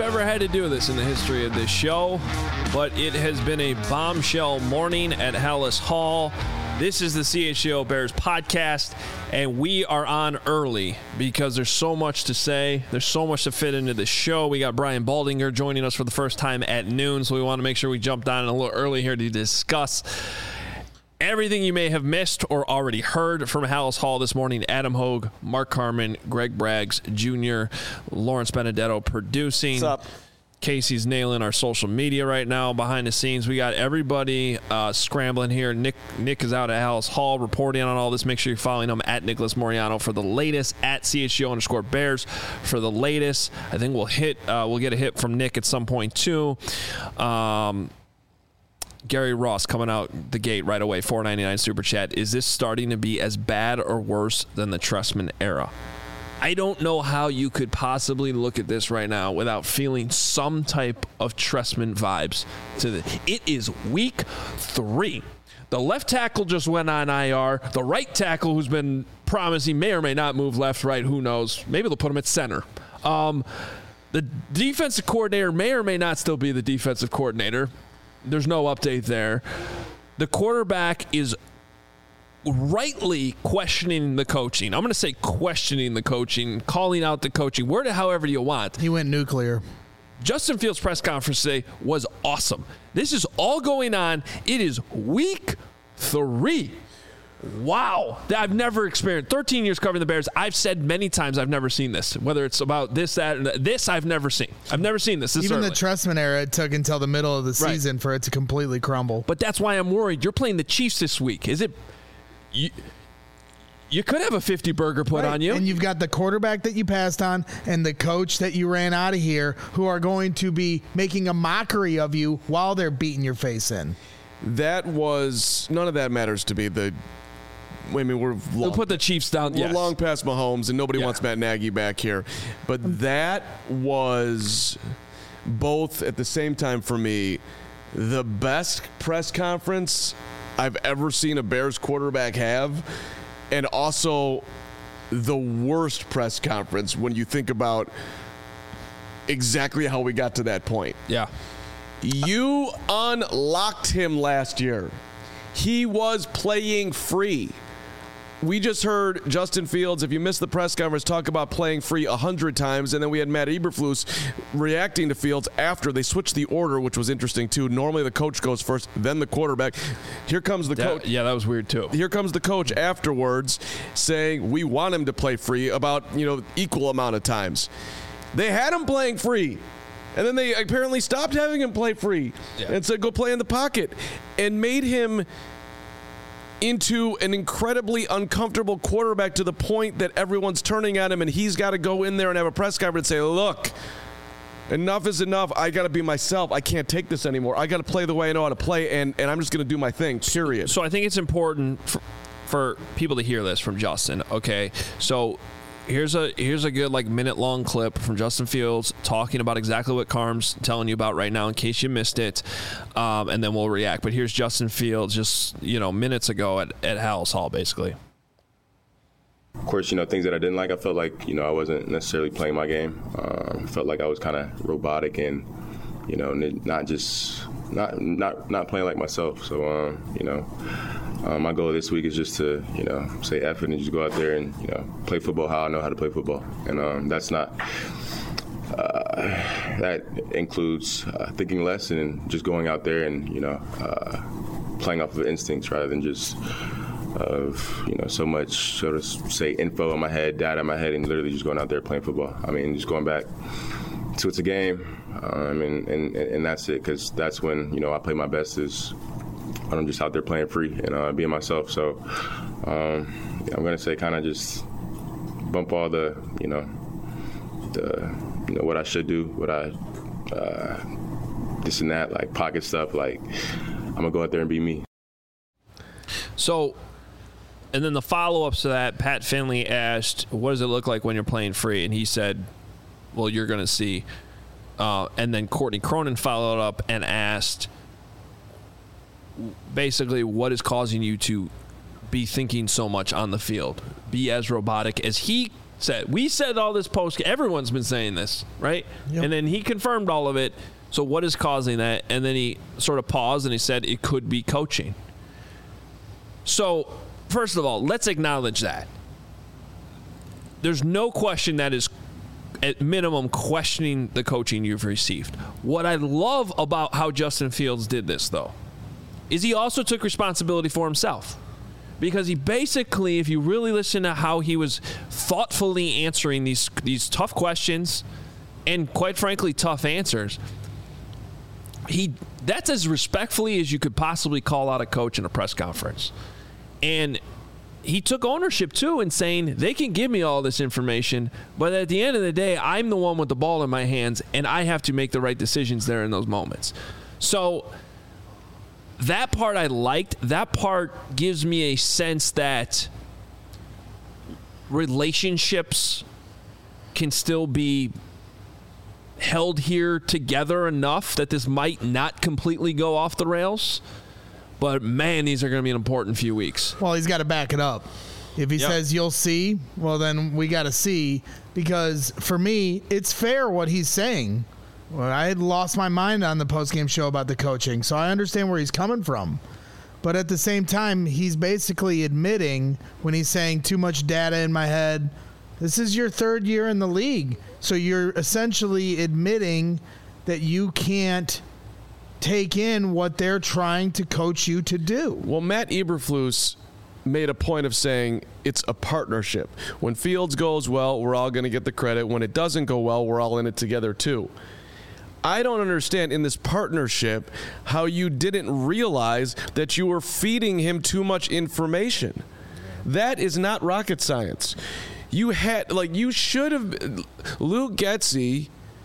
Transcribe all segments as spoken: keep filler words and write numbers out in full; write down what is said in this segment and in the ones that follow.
ever had to do this in the history of this show, but it has been a bombshell morning at Halas Hall. This is the C H G O Bears podcast, and we are on early because there's so much to say. There's so much to fit into the show. We got Brian Baldinger joining us for the first time at noon, so we want to make sure we jumped on a little early here to discuss everything you may have missed or already heard from Halas Hall this morning. Adam Hogue, Mark Carman, Greg Braggs Junior, Lawrence Benedetto producing. What's up? Casey's nailing our social media right now behind the scenes. We got everybody uh, scrambling here. Nick Nick is out at Halas Hall reporting on all this. Make sure you're following him at Nicholas Moriano for the latest, at C H G O underscore Bears for the latest. I think we'll hit uh, we'll get a hit from Nick at some point too. Um, Gary Ross coming out the gate right away, four ninety-nine super chat. Is this starting to be as bad or worse than the Trestman era? I don't know how you could possibly look at this right now without feeling some type of Trestman vibes to the. It is week three. The left tackle just went on I R. The right tackle, who's been promising, may or may not move left, right, who knows. Maybe they'll put him at center. Um, the defensive coordinator may or may not still be the defensive coordinator. There's no update there. The quarterback is rightly questioning the coaching. I'm going to say questioning the coaching, calling out the coaching, word it however you want. He went nuclear. Justin Fields' press conference today was awesome. This is all going on. It is week three. Wow. I've never experienced thirteen years covering the Bears. I've said many times I've never seen this, whether it's about this, that, and that. This I've never seen. I've never seen this. this Even early. the Trestman era, it took until the middle of the Right. season for it to completely crumble. But that's why I'm worried. You're playing the Chiefs this week. Is it... You, you could have a fifty burger put Right. on you. And you've got the quarterback that you passed on and the coach that you ran out of here who are going to be making a mockery of you while they're beating your face in. That was none of that matters to me. The I mean, we're long, We'll put the Chiefs down. we're Yes. long past Mahomes, and nobody Yeah. wants Matt Nagy back here. But that was both at the same time for me the best press conference I've ever seen a Bears quarterback have, and also the worst press conference when you think about exactly how we got to that point. Yeah. You unlocked him last year. He was playing free. We just heard Justin Fields, if you missed the press conference, talk about playing free a hundred times, and then we had Matt Eberflus reacting to Fields after they switched the order, which was interesting too. Normally the coach goes first, then the quarterback. Here comes the That, coach. yeah, that was weird too. Here comes the coach afterwards saying we want him to play free about, you know, equal amount of times. They had him playing free. And then they apparently stopped having him play free Yeah. and said, go play in the pocket, and made him into an incredibly uncomfortable quarterback to the point that everyone's turning on him, and he's got to go in there and have a press conference and say, look, enough is enough. I got to be myself. I can't take this anymore. I got to play the way I know how to play, and, and I'm just going to do my thing, period. So I think it's important for, for people to hear this from Justin. Okay, so here's a here's a good like minute long clip from Justin Fields talking about exactly what Carm's telling you about right now, in case you missed it, um, and then we'll react. But here's Justin Fields just you know minutes ago at at Halas Hall, basically. Of course, you know, things that I didn't like, I felt like, you know, I wasn't necessarily playing my game. Um, felt like I was kind of robotic and, you know, not just, not not not playing like myself. So, um, you know, um, my goal this week is just to, you know, say F it and just go out there and, you know, play football how I know how to play football. And um, that's not, uh, that includes uh, thinking less and just going out there and, you know, uh, playing off of instincts rather than just of, you know, so much, so to say, info in my head, data in my head, and literally just going out there playing football. I mean, just going back to it's a game, um, and, and, and that's it, because that's when, you know, I play my best is when I'm just out there playing free and uh, being myself. So um, yeah, I'm going to say kind of just bump all the, you know, the, you know, what I should do, what I, uh, this and that, like pocket stuff, like I'm going to go out there and be me. So, and then the follow-ups to that, Pat Finley asked, what does it look like when you're playing free? And he said, well, you're going to see. Uh, and then Courtney Cronin followed up and asked, basically, what is causing you to be thinking so much on the field? Be as robotic as he said. We said all this post. Everyone's been saying this, right? Yep. And then he confirmed all of it. So what is causing that? And then he sort of paused and he said it could be coaching. So first of all, let's acknowledge that. There's no question that is, at minimum, questioning the coaching you've received. What I love about how Justin Fields did this, though, is he also took responsibility for himself. Because he basically, if you really listen to how he was thoughtfully answering these these tough questions and, quite frankly, tough answers, he that's as respectfully as you could possibly call out a coach in a press conference. And he took ownership, too, in saying they can give me all this information, but at the end of the day, I'm the one with the ball in my hands, and I have to make the right decisions there in those moments. So that part I liked. That part gives me a sense that relationships can still be held here together enough that this might not completely go off the rails. But, man, these are going to be an important few weeks. Well, he's got to back it up. If he yep. says you'll see, well, then we got to see. Because, for me, it's fair what he's saying. Well, I had lost my mind on the postgame show about the coaching, so I understand where he's coming from. But at the same time, he's basically admitting when he's saying too much data in my head, this is your third year in the league. So you're essentially admitting that you can't take in what they're trying to coach you to do. Well, Matt Eberflus made a point of saying it's a partnership. When Fields goes well, we're all going to get the credit. When it doesn't go well, we're all in it together too. I don't understand in this partnership how you didn't realize that you were feeding him too much information. That is not rocket science. You had, like, you should have, Luke Getsy,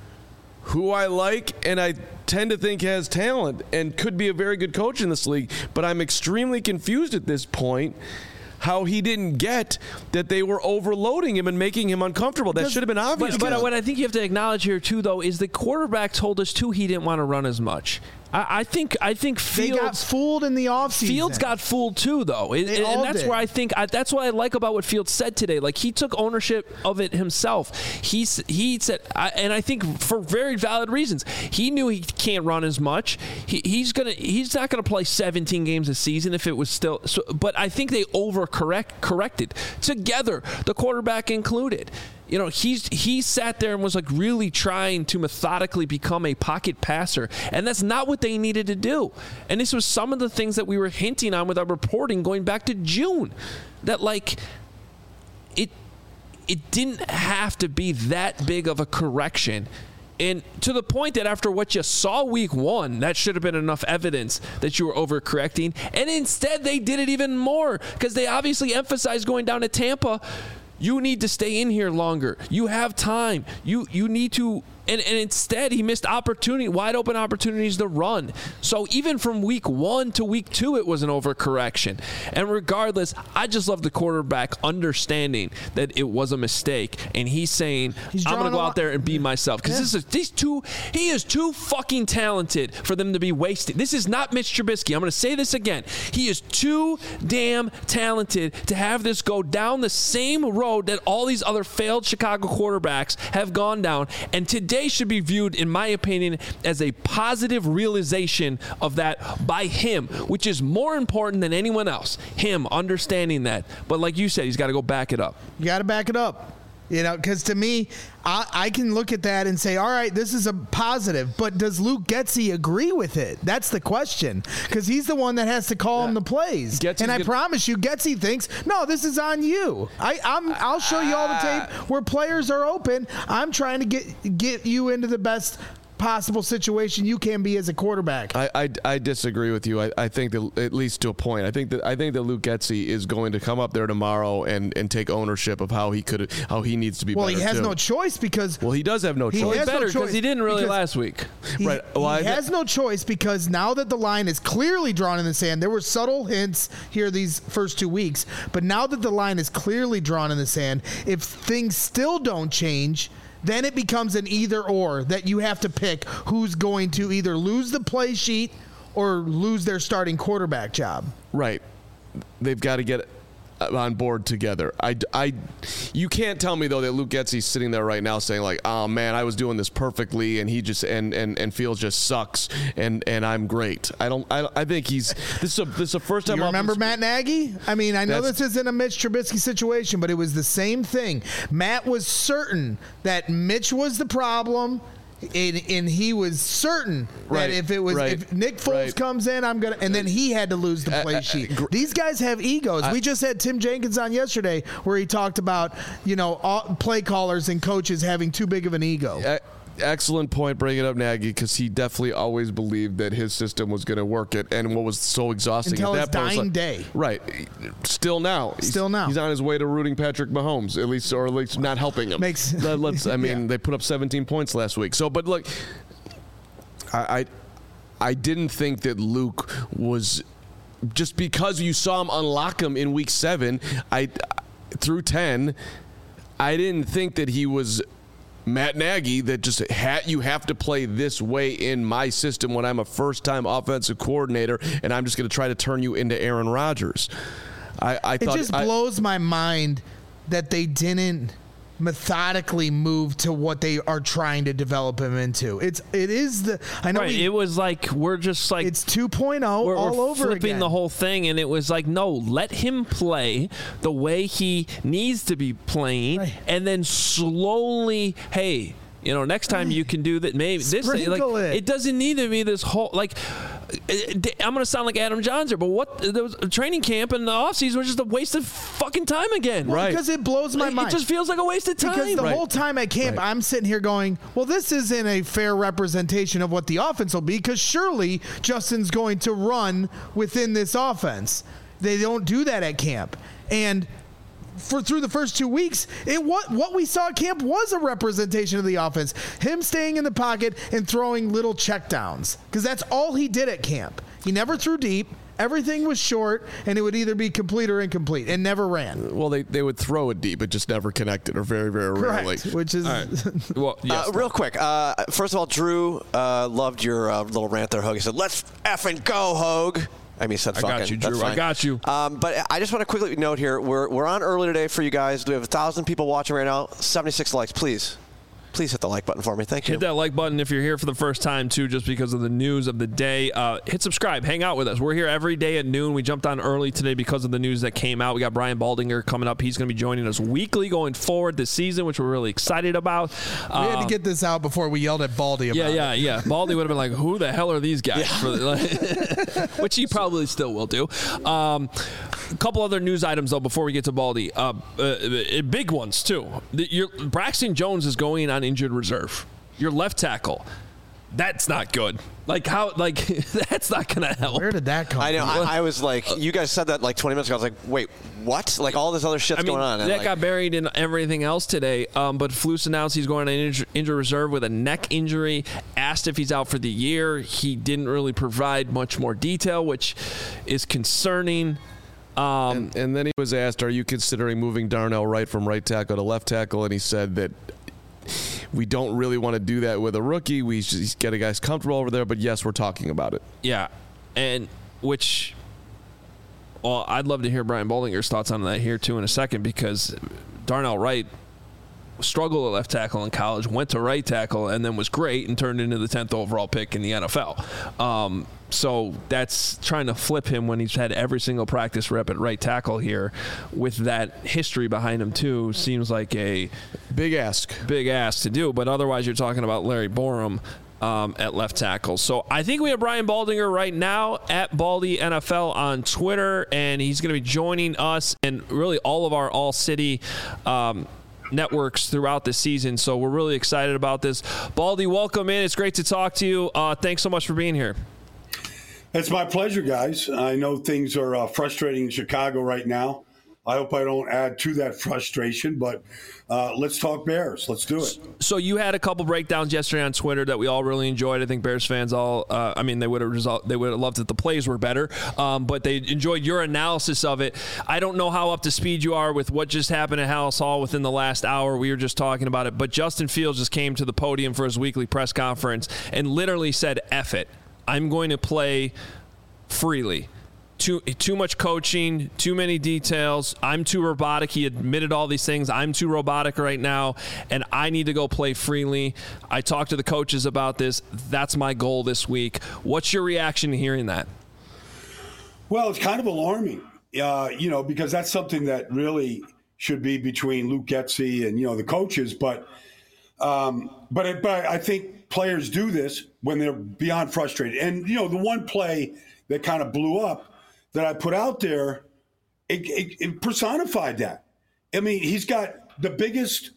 who I like and I tend to think has talent and could be a very good coach in this league, but I'm extremely confused at this point how he didn't get that they were overloading him and making him uncomfortable. That should have been obvious. But, but what I think you have to acknowledge here, too, though, is the quarterback told us, too, he didn't want to run as much. I, I think I think Fields they got fooled in the offseason. Fields got fooled too, though, it, they and all that's did. where I think I, that's what I like about what Fields said today. Like, he took ownership of it himself. He he said, I, and I think for very valid reasons. He knew he can't run as much. He, he's gonna he's not gonna play seventeen games a season if it was still. So, but I think they overcorrect corrected together, the quarterback included. You know, he's he sat there and was like really trying to methodically become a pocket passer, and that's not what they needed to do. And this was some of the things that we were hinting on with our reporting going back to June, that like it it didn't have to be that big of a correction. And to the point that after what you saw week one, that should have been enough evidence that you were overcorrecting. And instead, they did it even more because they obviously emphasized going down to Tampa. You need to stay in here longer. You have time. You you need to, and, and instead he missed opportunity, wide open opportunities to run. So even from week one to week two, it was an overcorrection. And regardless, I just love the quarterback understanding that it was a mistake, and he's saying, he's I'm going to go out there and be myself. Because yeah. this is these two, he is too fucking talented for them to be wasted. This is not Mitch Trubisky. I'm going to say this again. He is too damn talented to have this go down the same road that all these other failed Chicago quarterbacks have gone down. And today should be viewed, in my opinion, as a positive realization of that by him, which is more important than anyone else. Him understanding that. But like you said, he's got to go back it up. You got to back it up. You know, because to me, I, I can look at that and say, all right, this is a positive. But does Luke Getsy agree with it? That's the question. Because he's the one that has to call yeah. him the plays. Getsy's and I good. promise you, Getsy thinks, no, this is on you. I, I'm, I'll show you all the tape where players are open. I'm trying to get get you into the best possible situation you can be as a quarterback. I, I, I disagree with you. I, I think that at least to a point. I think that I think that Luke Getsy is going to come up there tomorrow and, and take ownership of how he could how he needs to be well, better. Well, he has too. no choice because Well, he does have no he choice. Has better because no he didn't really last week. He, right. Well, he I, has no choice because now that the line is clearly drawn in the sand, there were subtle hints here these first two weeks, but now that the line is clearly drawn in the sand, if things still don't change, then it becomes an either or that you have to pick who's going to either lose the play sheet or lose their starting quarterback job. Right. They've got to get on board together. I, I, you can't tell me though that Luke Getsy's sitting there right now saying like, oh man, I was doing this perfectly, and he just and and, and Fields just sucks, and, and I'm great. I don't. I, I think he's this is a this is a first time. You remember offense- Matt Nagy? I mean, I know That's- this isn't a Mitch Trubisky situation, but it was the same thing. Matt was certain that Mitch was the problem. And, and he was certain Right, that if it was right, if Nick Foles right. comes in, I'm gonna. And then he had to lose the play uh, sheet. gr- These guys have egos. I- we just had Tim Jenkins on yesterday, where he talked about you know all, play callers and coaches having too big of an ego. E- Excellent point, bringing up Nagy, because he definitely always believed that his system was going to work it, and what was so exhausting Until at his that point was dying like- day. Right. Still now. He's- Still now. He's on his way to rooting Patrick Mahomes, at least, or at least not helping him. Makes- Let- let's. I mean, Yeah. they put up seventeen points last week. So, but look, I, I, I didn't think that Luke was just because you saw him unlock him in week seven. I through ten. I didn't think that he was Matt Nagy, that just ha- you have to play this way in my system when I'm a first-time offensive coordinator, and I'm just going to try to turn you into Aaron Rodgers. I, I It thought just I, blows my mind that they didn't methodically move to what they are trying to develop him into. It's it is the I know Right. we, It was like we're just like it's two point oh we're, all we're over flipping again. the whole thing, and it was like, no, let him play the way he needs to be playing, Right. and then slowly, hey, you know, next time you can do that. Maybe this, like, Sprinkle it. it doesn't need to be this whole like. I'm going to sound like Adam Johnson, but what there was a training camp and the offseason was just a waste of fucking time again. Well, Right. because it blows my It mind. just feels like a waste of time. Because the Right. whole time at camp, Right. I'm sitting here going, well, this isn't a fair representation of what the offense will be, because surely Justin's going to run within this offense. They don't do that at camp. And for through the first two weeks, it what what we saw at camp was a representation of the offense. Him staying in the pocket and throwing little checkdowns, because that's all he did at camp. He never threw deep. Everything was short, and it would either be complete or incomplete, and never ran. well, they, they would throw it deep, but just never connected, or very, very rarely. Correct. Which is Well, yes, Uh, real quick, uh, first of all, Drew uh, loved your uh, little rant there, Hogue. He said, "Let's effing go, Hogue." I mean, he said I fucking. got you, That's Drew. I fine. got you. Um, but I just want to quickly note here: we're we're on early today for you guys. We have a thousand people watching right now. seventy-six likes, please. Please hit the like button for me. Thank you. Hit that like button if you're here for the first time, too, just because of the news of the day. Uh, hit subscribe. Hang out with us. We're here every day at noon. We jumped on early today because of the news that came out. We got Brian Baldinger coming up. He's going to be joining us weekly going forward this season, which we're really excited about. we had Uh, to get this out before we yelled at Baldy about yeah, it. yeah, yeah. Baldy would have been like, who the hell are these guys? For the, which he probably still will do. Um, a couple other news items, though, before we get to Baldy. Uh, uh, uh, big ones, too. The, your, Braxton Jones is going on injured reserve. Your left tackle. That's not good. Like, how, like, that's not going to help. Where did that come I know. from? I, I was like, you guys said that like twenty minutes ago. I was like, wait, what? Like all this other shit's I mean, going on. And that like, got buried in everything else today. Um, but Flus announced he's going on injury, injury reserve with a neck injury. Asked if he's out for the year. He didn't really provide much more detail, which is concerning. Um, And, and then he was asked, are you considering moving Darnell Wright from right tackle to left tackle? And he said that we don't really want to do that with a rookie. We just get a guys comfortable over there, but yes, we're talking about it. yeah, and which, well, I'd love to hear Brian Boldinger's thoughts on that here too in a second, because Darnell Wright struggled at left tackle in college, went to right tackle, and then was great and turned into the tenth overall pick in the N F L. Um, so that's trying to flip him when he's had every single practice rep at right tackle here with that history behind him too seems like a Big ask. big ask to do. But otherwise, you're talking about Larry Borum um, at left tackle. So I think we have Brian Baldinger right now at Baldy N F L on Twitter, and he's going to be joining us and really all of our All City um, networks throughout the season. So we're really excited about this. Baldy, welcome in. It's great to talk to you. Uh, thanks so much for being here. It's my pleasure, guys. I know things are uh, frustrating in Chicago right now. I hope I don't add to that frustration, but uh, let's talk Bears. Let's do it. So you had a couple breakdowns yesterday on Twitter that we all really enjoyed. I think Bears fans all, uh, I mean, they would have result, they would have loved that the plays were better, um, but they enjoyed your analysis of it. I don't know how up to speed you are with what just happened at Hallis Hall within the last hour. We were just talking about it, but Justin Fields just came to the podium for his weekly press conference and literally said, F it. I'm going to play freely. Too too much coaching, too many details. I'm too robotic. He admitted all these things. I'm too robotic right now, and I need to go play freely. I talked to the coaches about this. That's my goal this week. What's your reaction to hearing that? Well, it's kind of alarming, uh, you know, because that's something that really should be between Luke Getsy and, you know, the coaches. But um, but, it, but I think players do this when they're beyond frustrated. And, you know, the one play that kind of blew up that I put out there, it, it, it personified that. I mean, he's got the biggest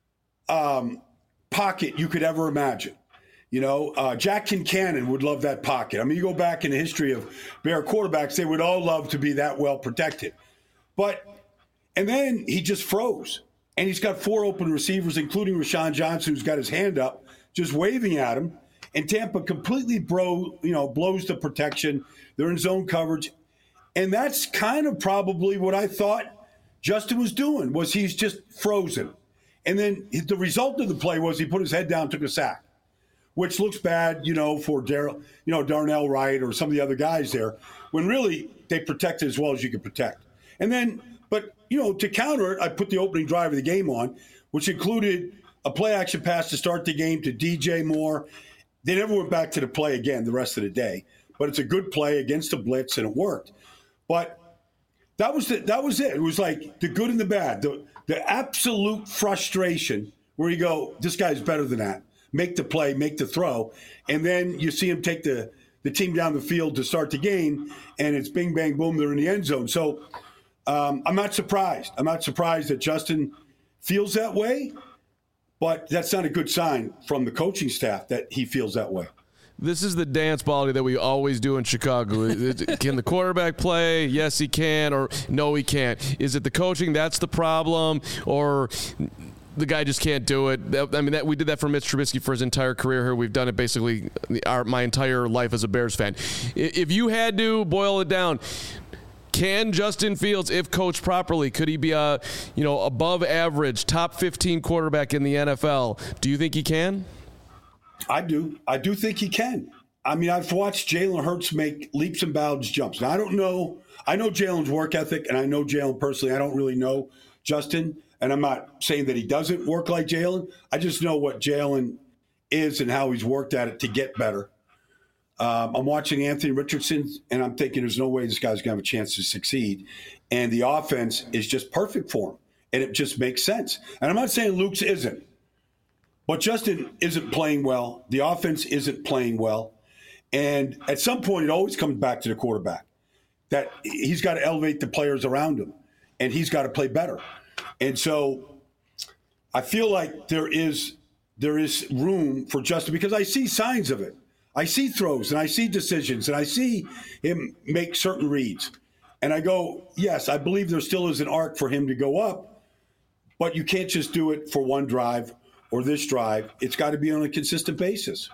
um, pocket you could ever imagine. You know, uh, Jack Kincannon would love that pocket. I mean, you go back in the history of Bear quarterbacks, they would all love to be that well protected. But, and then he just froze. And he's got four open receivers, including Rashawn Johnson, who's got his hand up, just waving at him. And Tampa completely bro, you know, blows the protection. They're in zone coverage. And that's kind of probably what I thought Justin was doing, was he's just frozen. And then the result of the play was he put his head down, took a sack, which looks bad, you know, for Darryl, you know, Darnell Wright or some of the other guys there, when really they protected as well as you could protect. And then, but, you know, to counter it, I put the opening drive of the game on, which included a play action pass to start the game to D J Moore. They never went back to the play again the rest of the day, but it's a good play against the blitz, and it worked. But that was the, that was it. It was like the good and the bad, the the absolute frustration where you go, this guy's better than that. Make the play, make the throw, and then you see him take the, the team down the field to start the game, and it's bing, bang, boom, they're in the end zone. So um, I'm not surprised. I'm not surprised that Justin feels that way, but that's not a good sign from the coaching staff that he feels that way. This is the dance quality that we always do in Chicago. Can the quarterback play? Yes, he can, or no, he can't. Is it the coaching that's the problem, or the guy just can't do it? I mean, that we did that for Mitch Trubisky for his entire career here. We've done it basically our, my entire life as a Bears fan. If you had to boil it down, can Justin Fields, if coached properly, could he be a, you know, above average, top fifteen quarterback in the N F L? Do you think he can? I do. I do think he can. I mean, I've watched Jalen Hurts make leaps and bounds jumps. Now, I don't know. I know Jalen's work ethic, and I know Jalen personally. I don't really know Justin, and I'm not saying that he doesn't work like Jalen. I just know what Jalen is and how he's worked at it to get better. Um, I'm watching Anthony Richardson, and I'm thinking there's no way this guy's going to have a chance to succeed. And the offense is just perfect for him, and it just makes sense. And I'm not saying Luke's isn't. But Justin isn't playing well. The offense isn't playing well. And at some point, it always comes back to the quarterback, that he's got to elevate the players around him, and he's got to play better. And so I feel like there is there is room for Justin, because I see signs of it. I see throws, and I see decisions, and I see him make certain reads. And I go, yes, I believe there still is an arc for him to go up, but you can't just do it for one drive or this drive. It's got to be on a consistent basis.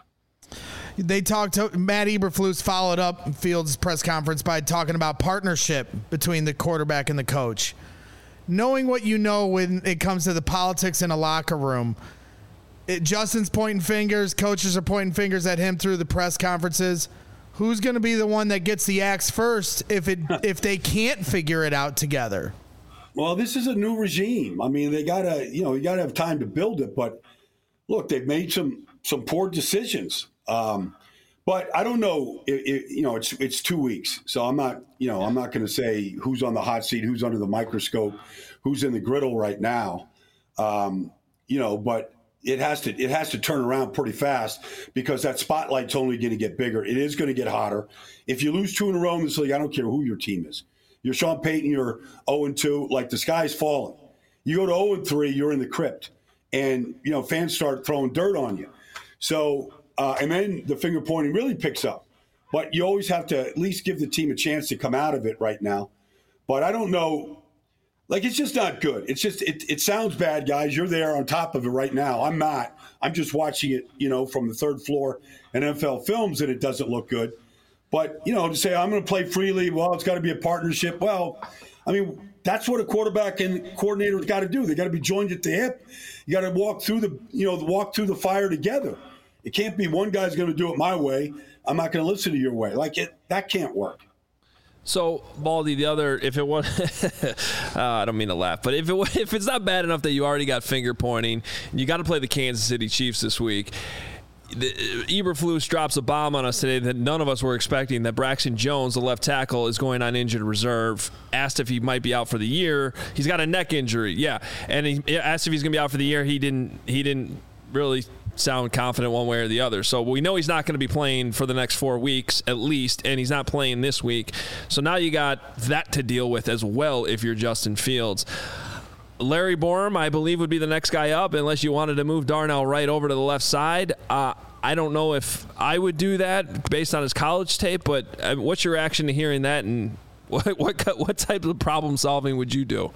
They talked to Matt Eberflus followed up Fields' press conference by talking about partnership between the quarterback and the coach. Knowing what you know when it comes to the politics in a locker room, it, Justin's pointing fingers, coaches are pointing fingers at him through the press conferences. Who's going to be the one that gets the axe first if it if they can't figure it out together? Well, this is a new regime. I mean, they gotta, you know, you gotta have time to build it. But look, they've made some some poor decisions. Um, but I don't know. It, it, you know, it's it's two weeks, so I'm not, you know, I'm not going to say who's on the hot seat, who's under the microscope, who's in the griddle right now. Um, you know, but it has to it has to turn around pretty fast, because that spotlight's only going to get bigger. It is going to get hotter. If you lose two in a row in this league, I don't care who your team is. You're Sean Payton, you're oh and two, like the sky's falling. You go to oh and three, you're in the crypt. And, you know, fans start throwing dirt on you. So, uh, and then the finger pointing really picks up. But you always have to at least give the team a chance to come out of it right now. But I don't know. Like, it's just not good. It's just, it, it sounds bad, guys. You're there on top of it right now. I'm not. I'm just watching it, you know, from the third floor in N F L Films, and it doesn't look good. But, you know, to say I'm going to play freely, well, it's got to be a partnership. Well, I mean, that's what a quarterback and coordinator's got to do. They got to be joined at the hip. You got to walk through the, you know, walk through the fire together. It can't be one guy's going to do it my way. I'm not going to listen to your way. Like, it, that can't work. So, Baldy, the other, if it was, uh, I don't mean to laugh, but if it if it's not bad enough that you already got finger pointing, and you got to play the Kansas City Chiefs this week, the, Eberflus drops a bomb on us today that none of us were expecting, that Braxton Jones, the left tackle, is going on injured reserve. Asked if he might be out for the year. He's got a neck injury, yeah. And he asked if he's going to be out for the year. He didn't. He didn't really sound confident one way or the other. So we know he's not going to be playing for the next four weeks at least, and he's not playing this week. So now you got that to deal with as well if you're Justin Fields. Larry Borom, I believe, would be the next guy up unless you wanted to move Darnell Wright over to the left side. Uh, I don't know if I would do that based on his college tape, but uh, what's your reaction to hearing that, and what what what type of problem solving would you do?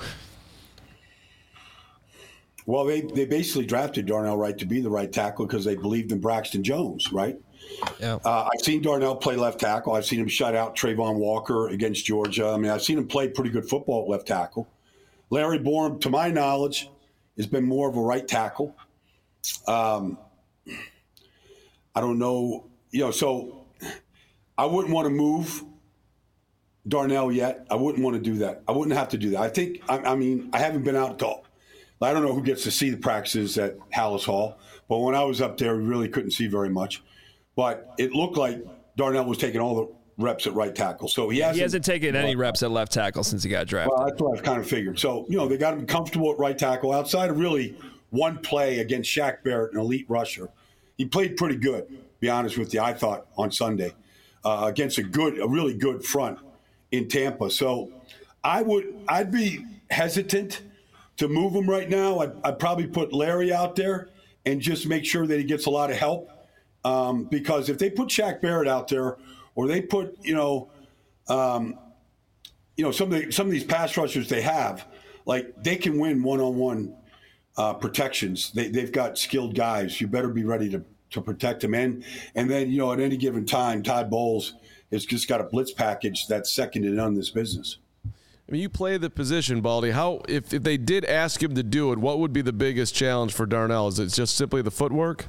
Well, they, they basically drafted Darnell Wright to be the right tackle because they believed in Braxton Jones, right? Yeah. Uh, I've seen Darnell play left tackle. I've seen him shut out Trayvon Walker against Georgia. I mean, I've seen him play pretty good football at left tackle. Larry Borom, to my knowledge, has been more of a right tackle. Um, I don't know, you know, so I wouldn't want to move Darnell yet. I wouldn't want to do that. I wouldn't have to do that. I think, I, I mean, I haven't been out to I don't know who gets to see the practices at Hallis Hall, but when I was up there, we really couldn't see very much. But it looked like Darnell was taking all the reps at right tackle. So he hasn't, he hasn't taken any reps at left tackle since he got drafted. Well, that's what I kind of figured. So, you know, they got him comfortable at right tackle outside of really one play against Shaq Barrett, an elite rusher. He played pretty good, to be honest with you, I thought, on Sunday uh, against a good, a really good front in Tampa. So I would, I'd be hesitant to move him right now. I'd, I'd probably put Larry out there and just make sure that he gets a lot of help. Um, because if they put Shaq Barrett out there, or they put, you know, um, you know, some of the, some of these pass rushers they have, like they can win one-on-one uh, protections. They, they've got skilled guys. You better be ready to, to protect them. And, and then, you know, at any given time, Todd Bowles has just got a blitz package that's second to none in this business. I mean, you play the position, Baldy. How, if, if they did ask him to do it, what would be the biggest challenge for Darnell? Is it just simply the footwork?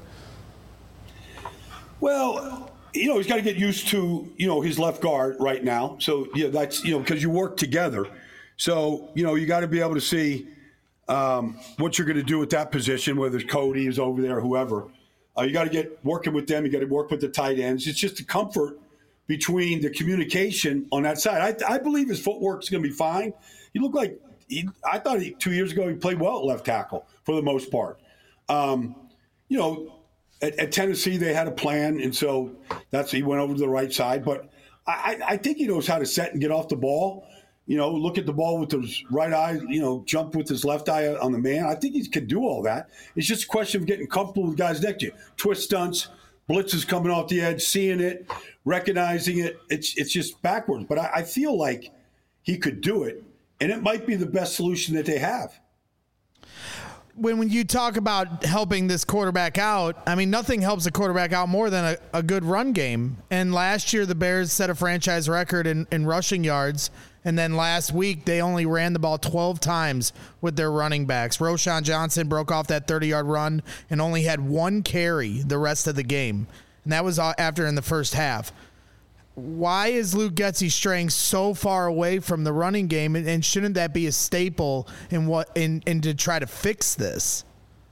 Well, you know, he's got to get used to, you know, his left guard right now. So, yeah, that's, you know, because you work together. So, you know, you got to be able to see um, what you're going to do with that position, whether it's Cody is over there or whoever. Uh, you got to get working with them. You got to work with the tight ends. It's just the comfort between the communication on that side. I, I believe his footwork is going to be fine. He looked like he, I thought he, two years ago he played well at left tackle for the most part. Um, you know, at, at Tennessee they had a plan, and so that's he went over to the right side. But I, I think he knows how to set and get off the ball. You know, look at the ball with his right eye. You know, jump with his left eye on the man. I think he can do all that. It's just a question of getting comfortable with guys next to you. Twist stunts. Blitzes coming off the edge, seeing it, recognizing it. It's it's just backwards. But I, I feel like he could do it, and it might be the best solution that they have. When when you talk about helping this quarterback out, I mean, nothing helps a quarterback out more than a, a good run game. And last year, the Bears set a franchise record in, in rushing yards. And then last week, they only ran the ball twelve times with their running backs. Roschon Johnson broke off that thirty-yard run and only had one carry the rest of the game. And that was after in the first half. Why is Luke Getsy straying so far away from the running game, and, and shouldn't that be a staple in what in, in to try to fix this?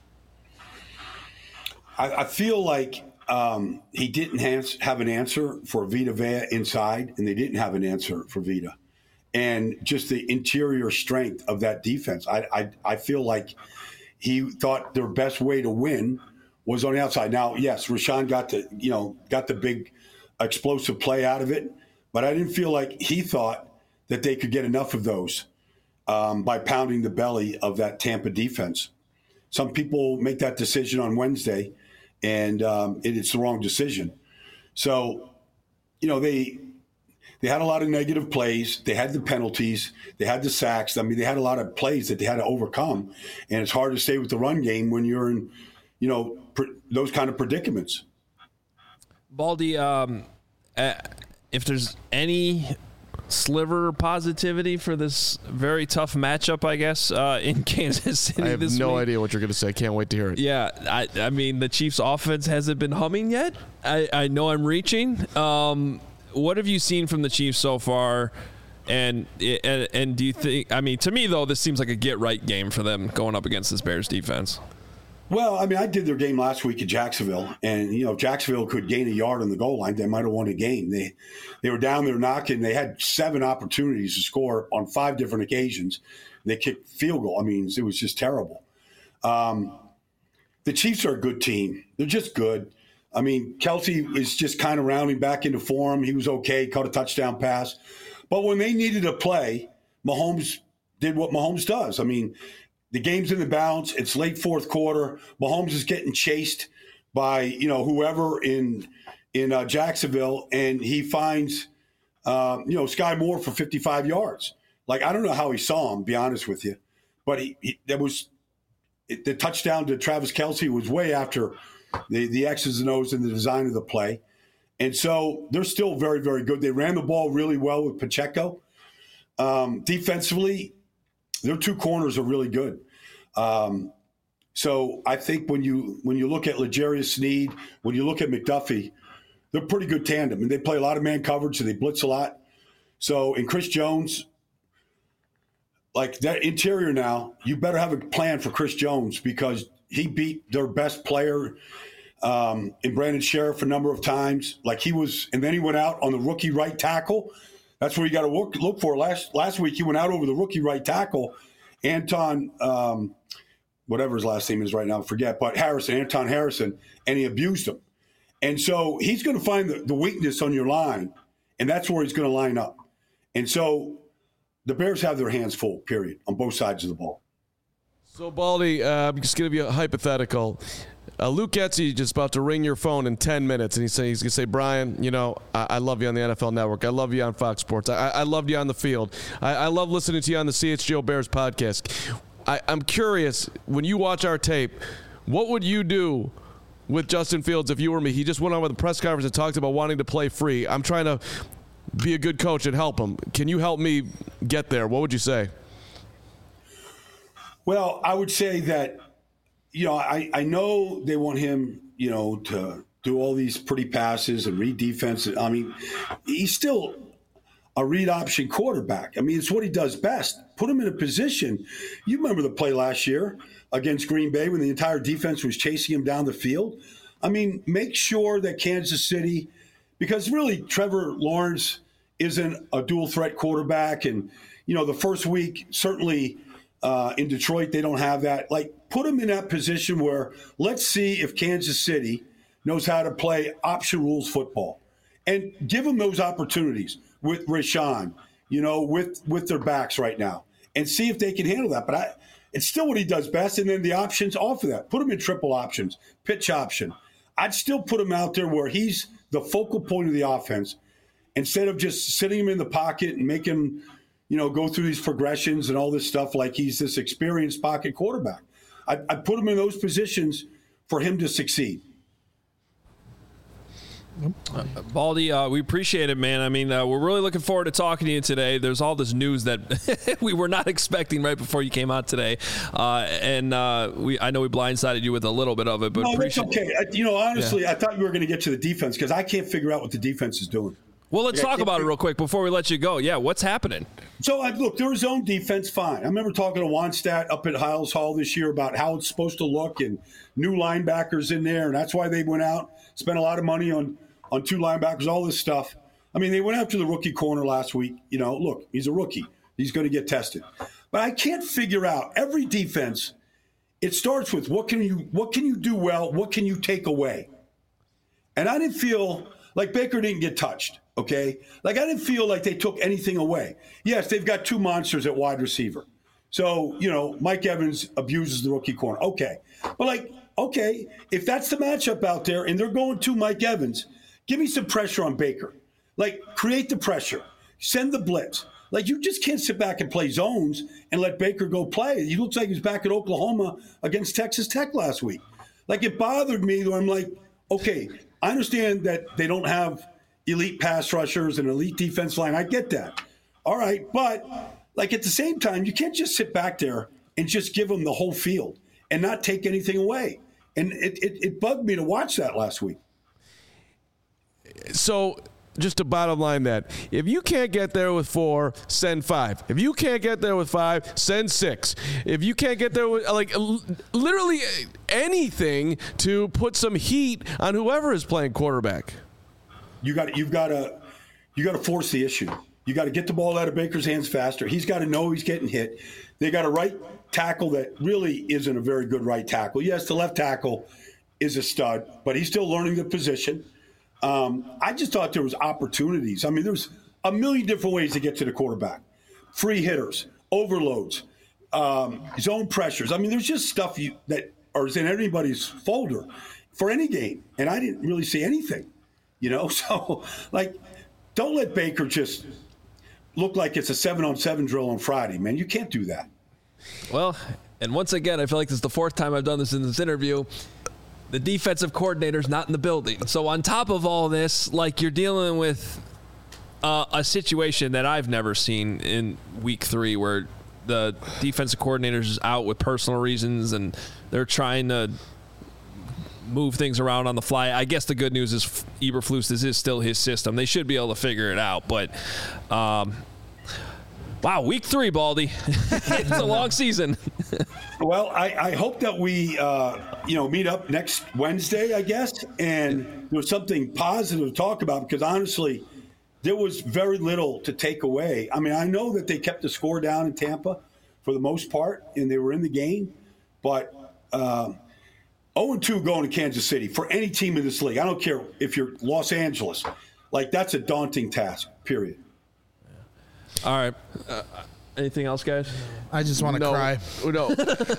I, I feel like um, he didn't have, have an answer for Vita Vea inside, and they didn't have an answer for Vita. And just the interior strength of that defense. I, I I feel like he thought their best way to win was on the outside. Now, yes, Roschon got the you know got the big explosive play out of it, but I didn't feel like he thought that they could get enough of those um, by pounding the belly of that Tampa defense. Some people make that decision on Wednesday, and um, it, it's the wrong decision. So, you know, they. They had a lot of negative plays. They had the penalties. They had the sacks. I mean, they had a lot of plays that they had to overcome. And it's hard to stay with the run game when you're in, you know, pr- those kind of predicaments. Baldy, um, uh, if there's any sliver positivity for this very tough matchup, I guess, uh, in Kansas City I have this no week. idea what you're going to say. I can't wait to hear it. Yeah, I, I mean, the Chiefs' offense hasn't been humming yet. I, I know I'm reaching. Um What have you seen from the Chiefs so far? And, and and do you think? I mean, to me though, this seems like a get right game for them going up against this Bears defense. Well, I mean, I did their game last week at Jacksonville, and you know, if Jacksonville could gain a yard on the goal line, they might have won a game. They they were down there knocking. They had seven opportunities to score on five different occasions. They kicked field goal. I mean, it was just terrible. Um, the Chiefs are a good team. They're just good. I mean, Kelce is just kind of rounding back into form. He was okay, caught a touchdown pass. But when they needed a play, Mahomes did what Mahomes does. I mean, the game's in the balance. It's late fourth quarter. Mahomes is getting chased by, you know, whoever in in uh, Jacksonville, and he finds, um, you know, Sky Moore for fifty-five yards. Like, I don't know how he saw him, to be honest with you. But he, he that was it, the touchdown to Travis Kelce was way after the, the X's and O's and the design of the play. And so they're still very, very good. They ran the ball really well with Pacheco. Um, defensively, their two corners are really good. Um, so I think when you when you look at L'Jarius Sneed, when you look at McDuffie, they're a pretty good tandem. And they play a lot of man coverage, so they blitz a lot. So, and Chris Jones, like that interior now, you better have a plan for Chris Jones because he beat their best player um, in Brandon Sheriff a number of times. Like he was, and then he went out on the rookie right tackle. That's where you got to look, look for. Last last week, he went out over the rookie right tackle, Anton, um, whatever his last name is right now, I forget, but Harrison, Anton Harrison, and he abused him. And so he's going to find the, the weakness on your line, and that's where he's going to line up. And so the Bears have their hands full, period, on both sides of the ball. So, Baldy, uh, I'm just going to give you a hypothetical. Uh, Luke Getsy just about to ring your phone in ten minutes, and he's, say, he's going to say, Brian, you know, I, I love you on the N F L Network. I love you on Fox Sports. I, I loved you on the field. I, I love listening to you on the C H G O Bears podcast. I, I'm curious, when you watch our tape, what would you do with Justin Fields if you were me? He just went on with a press conference and talked about wanting to play free. I'm trying to be a good coach and help him. Can you help me get there? What would you say? Well, I would say that, you know, I, I know they want him, you know, to do all these pretty passes and read defense. I mean, he's still a read option quarterback. I mean, it's what he does best. Put him in a position. You remember the play last year against Green Bay when the entire defense was chasing him down the field. I mean, make sure that Kansas City, because really Trevor Lawrence isn't a dual threat quarterback. And, you know, the first week, certainly uh, in Detroit, they don't have that. Like, put him in that position where let's see if Kansas City knows how to play option rules football and give them those opportunities with Rashawn, you know, with, with their backs right now and see if they can handle that. But I, it's still what he does best. And then the options off of that, put him in triple options, pitch option. I'd still put him out there where he's the focal point of the offense instead of just sitting him in the pocket and making him, you know, go through these progressions and all this stuff like he's this experienced pocket quarterback. I, I put him in those positions for him to succeed. Uh, Baldy, uh, we appreciate it, man. I mean, uh, we're really looking forward to talking to you today. There's all this news that we were not expecting right before you came out today, uh, and uh, we I know we blindsided you with a little bit of it, but no, appreciate that's okay. I, you know, honestly, yeah. I thought you were going to get to the defense because I can't figure out what the defense is doing. Well, let's like, talk about it real quick before we let you go. Yeah, what's happening? So, I, look, their zone defense, fine. I remember talking to Wannstedt up at Hiles Hall this year about how it's supposed to look and new linebackers in there, and that's why they went out, spent a lot of money on on two linebackers, all this stuff. I mean, they went after the rookie corner last week. You know, look, he's a rookie. He's going to get tested. But I can't figure out every defense. It starts with what can you what can you do well? What can you take away? And I didn't feel like Baker didn't get touched, okay? Like I didn't feel like they took anything away. Yes, they've got two monsters at wide receiver. So, you know, Mike Evans abuses the rookie corner. Okay. But like, okay, if that's the matchup out there and they're going to Mike Evans, give me some pressure on Baker. Like, create the pressure. Send the blitz. Like, you just can't sit back and play zones and let Baker go play. He looks like he was back at Oklahoma against Texas Tech last week. Like, it bothered me, though. I'm like, okay, I understand that they don't have elite pass rushers and elite defense line. I get that. All right, but, like, at the same time, you can't just sit back there and just give them the whole field and not take anything away. And it, it, it bugged me to watch that last week. So just to bottom line that. If you can't get there with four, send five. If you can't get there with five, send six. If you can't get there with, like, literally anything to put some heat on whoever is playing quarterback. You got you've got to you got to force the issue. You got to get the ball out of Baker's hands faster. He's got to know he's getting hit. They got a right tackle that really isn't a very good right tackle. Yes, the left tackle is a stud, but he's still learning the position. Um, I just thought there was opportunities. I mean, there's a million different ways to get to the quarterback. Free hitters, overloads, um, zone pressures. I mean, there's just stuff you, that is in anybody's folder for any game, and I didn't really see anything, you know? So, like, don't let Baker just look like it's a seven-on-seven drill on Friday, man. You can't do that. Well, and once again, I feel like this is the fourth time I've done this in this interview. The defensive coordinator's not in the building. So on top of all this, like, you're dealing with uh, a situation that I've never seen in week three where the defensive coordinator's out with personal reasons and they're trying to move things around on the fly. I guess the good news is Eberflus, this is still his system. They should be able to figure it out. But, um, wow, week three, Baldy. It's a long season. Well, I, I hope that we, uh, you know, meet up next Wednesday, I guess, and there's something positive to talk about because, honestly, there was very little to take away. I mean, I know that they kept the score down in Tampa for the most part, and they were in the game, but um, oh and two going to Kansas City for any team in this league, I don't care if you're Los Angeles, like, that's a daunting task, period. All right. Uh, anything else, guys? I just want to no, cry. No.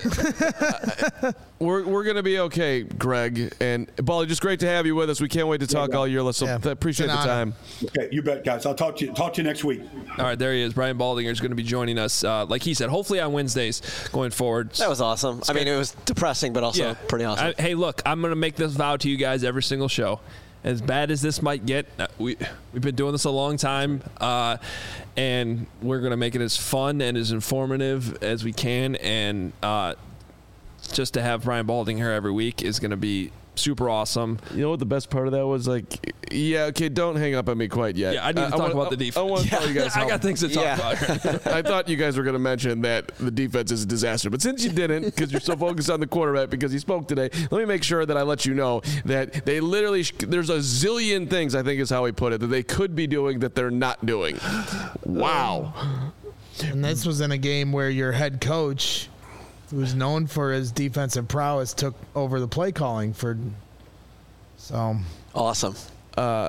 we're we're going to be okay, Greg. And, Baldy, just great to have you with us. We can't wait to talk yeah, all year. Let's yeah. appreciate the time. Okay, you bet, guys. I'll talk to you, talk to you next week. All right, there he is. Brian Baldinger is going to be joining us, uh, like he said, hopefully on Wednesdays going forward. That was awesome. I mean, it was depressing, but also Yeah. pretty awesome. I, hey, look, I'm going to make this vow to you guys every single show. As bad as this might get, uh, we, we've been doing this a long time, uh, and we're going to make it as fun and as informative as we can. And uh, just to have Brian Balding here every week is going to be super awesome. You know what the best part of that was? Like, yeah, okay, don't hang up on me quite yet. Yeah, I need to uh, talk wanna, about I, the defense. I want to yeah. tell you guys how, I got things to talk Yeah. about. I thought you guys were going to mention that the defense is a disaster. But since you didn't, because you're so focused on the quarterback because he spoke today, let me make sure that I let you know that they literally, sh- there's a zillion things, I think is how he put it, that they could be doing that they're not doing. Wow. And this was in a game where your head coach, who was known for his defensive prowess, took over the play calling for. So awesome. Uh,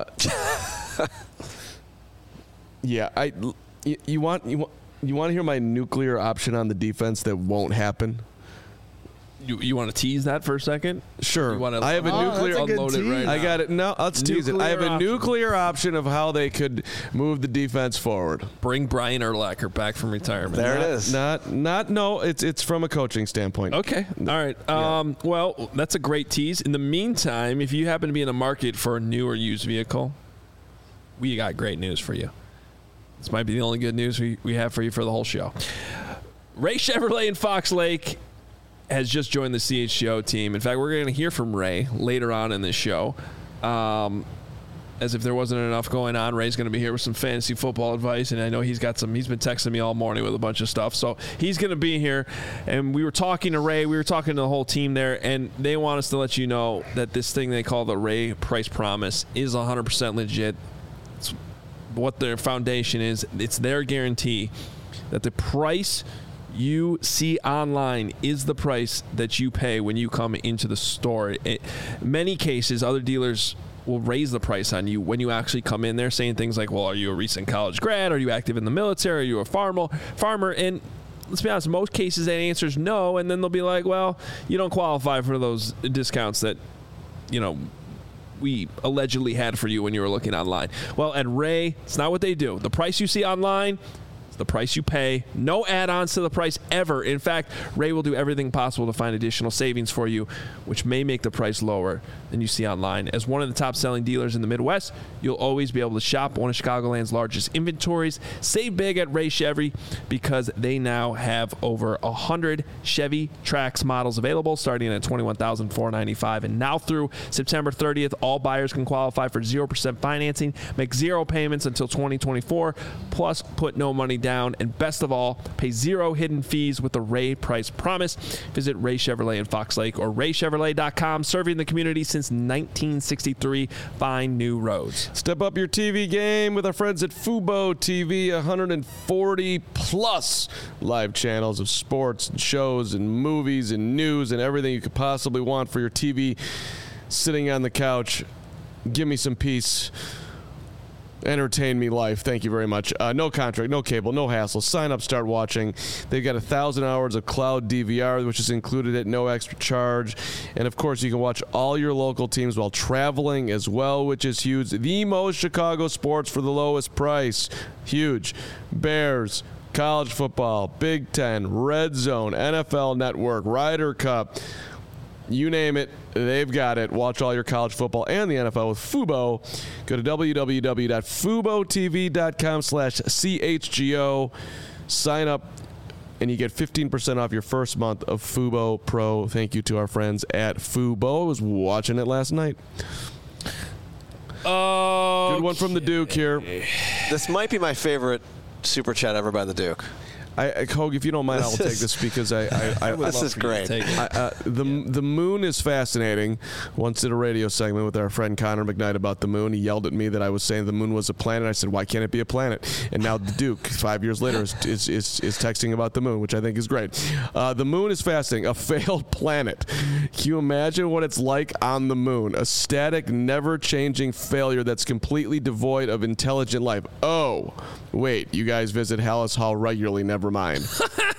yeah, I. You, you want you want you want to hear my nuclear option on the defense that won't happen? You, you want to tease that for a second? Sure. You want to I have a Oh, nuclear. that's a good unload it right tease. now. I got it. No, let's tease it. I have a Nuclear option. nuclear option of how they could move the defense forward. Bring Brian Urlacher back from retirement. There it Not- is. Not, not, no. It's it's from a coaching standpoint. Okay. All right. Um, well, that's a great tease. In the meantime, if you happen to be in the market for a new or used vehicle, we got great news for you. This might be the only good news we, we have for you for the whole show. Ray Chevrolet in Fox Lake has just joined the C H G O team. In fact, we're going to hear from Ray later on in this show. Um, as if there wasn't enough going on, Ray's going to be here with some fantasy football advice, and I know he's got some. He's been texting me all morning with a bunch of stuff, so he's going to be here. And we were talking to Ray, we were talking to the whole team there, and they want us to let you know that this thing they call the Ray Price Promise is one hundred percent legit. It's what their foundation is. It's their guarantee that the price you see online is the price that you pay when you come into the store. In many cases, other dealers will raise the price on you when you actually come in there, saying things like, well, are you a recent college grad? Are you active in the military? Are you a farmer? farmer? And let's be honest, in most cases that answer is no, and then they'll be like, well, you don't qualify for those discounts that, you know, we allegedly had for you when you were looking online. Well, at Ray, it's not what they do. The price you see online, the price you pay. No add-ons to the price ever. In fact, Ray will do everything possible to find additional savings for you, which may make the price lower than you see online. As one of the top-selling dealers in the Midwest, you'll always be able to shop one of Chicagoland's largest inventories. Save big at Ray Chevy because they now have over one hundred Chevy Trax models available, starting at twenty-one thousand four hundred ninety-five dollars. And now through September thirtieth, all buyers can qualify for zero percent financing, make zero payments until twenty twenty-four, plus put no money down, and best of all, pay zero hidden fees with the Ray Price Promise. Visit Ray Chevrolet in Fox Lake or ray chevrolet dot com, serving the community since nineteen sixty-three. Find new roads. Step up your T V game with our friends at Fubo T V. one hundred forty plus live channels of sports and shows and movies and news and everything you could possibly want for your T V sitting on the couch. Give me some peace. Entertain me life. Thank you very much. Uh, no contract, no cable, no hassle. Sign up, start watching. They've got a thousand hours of cloud D V R, which is included at no extra charge. And of course, you can watch all your local teams while traveling as well, which is huge. The most Chicago sports for the lowest price. Huge. Bears, college football, Big Ten, Red Zone, N F L Network, Ryder Cup. You name it, they've got it. Watch all your college football and the N F L with Fubo. Go to w w w dot fubo t v dot com slash c h g o. Sign up, and you get fifteen percent off your first month of Fubo Pro. Thank you to our friends at Fubo. I was watching it last night. Oh, good one from the Duke here. This might be my favorite super chat ever by the Duke. I, I Hogue, if you don't mind, I will take this because I. I, I this is great. I, uh, the the moon is fascinating. Once did a radio segment with our friend Connor McKnight about the moon. He yelled at me that I was saying the moon was a planet. I said, "Why can't it be a planet?" And now the Duke, five years later, is is, is, is texting about the moon, which I think is great. Uh, the moon is fascinating. A failed planet. Can you imagine what it's like on the moon? A static, never-changing failure that's completely devoid of intelligent life. Oh, wait, you guys visit Hallis Hall regularly. Never mind.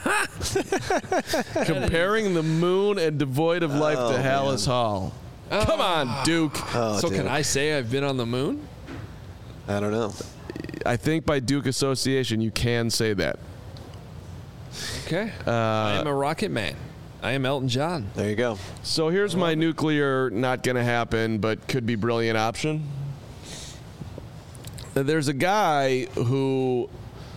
Comparing the moon and devoid of life oh, to Hallis man. Hall. Come on, Duke. Oh, so Duke. can I say I've been on the moon? I don't know. I think by Duke association, you can say that. Okay. Uh, I am a rocket man. I am Elton John. There you go. So here's my nuclear, not going to happen, but could be brilliant option. There's a guy who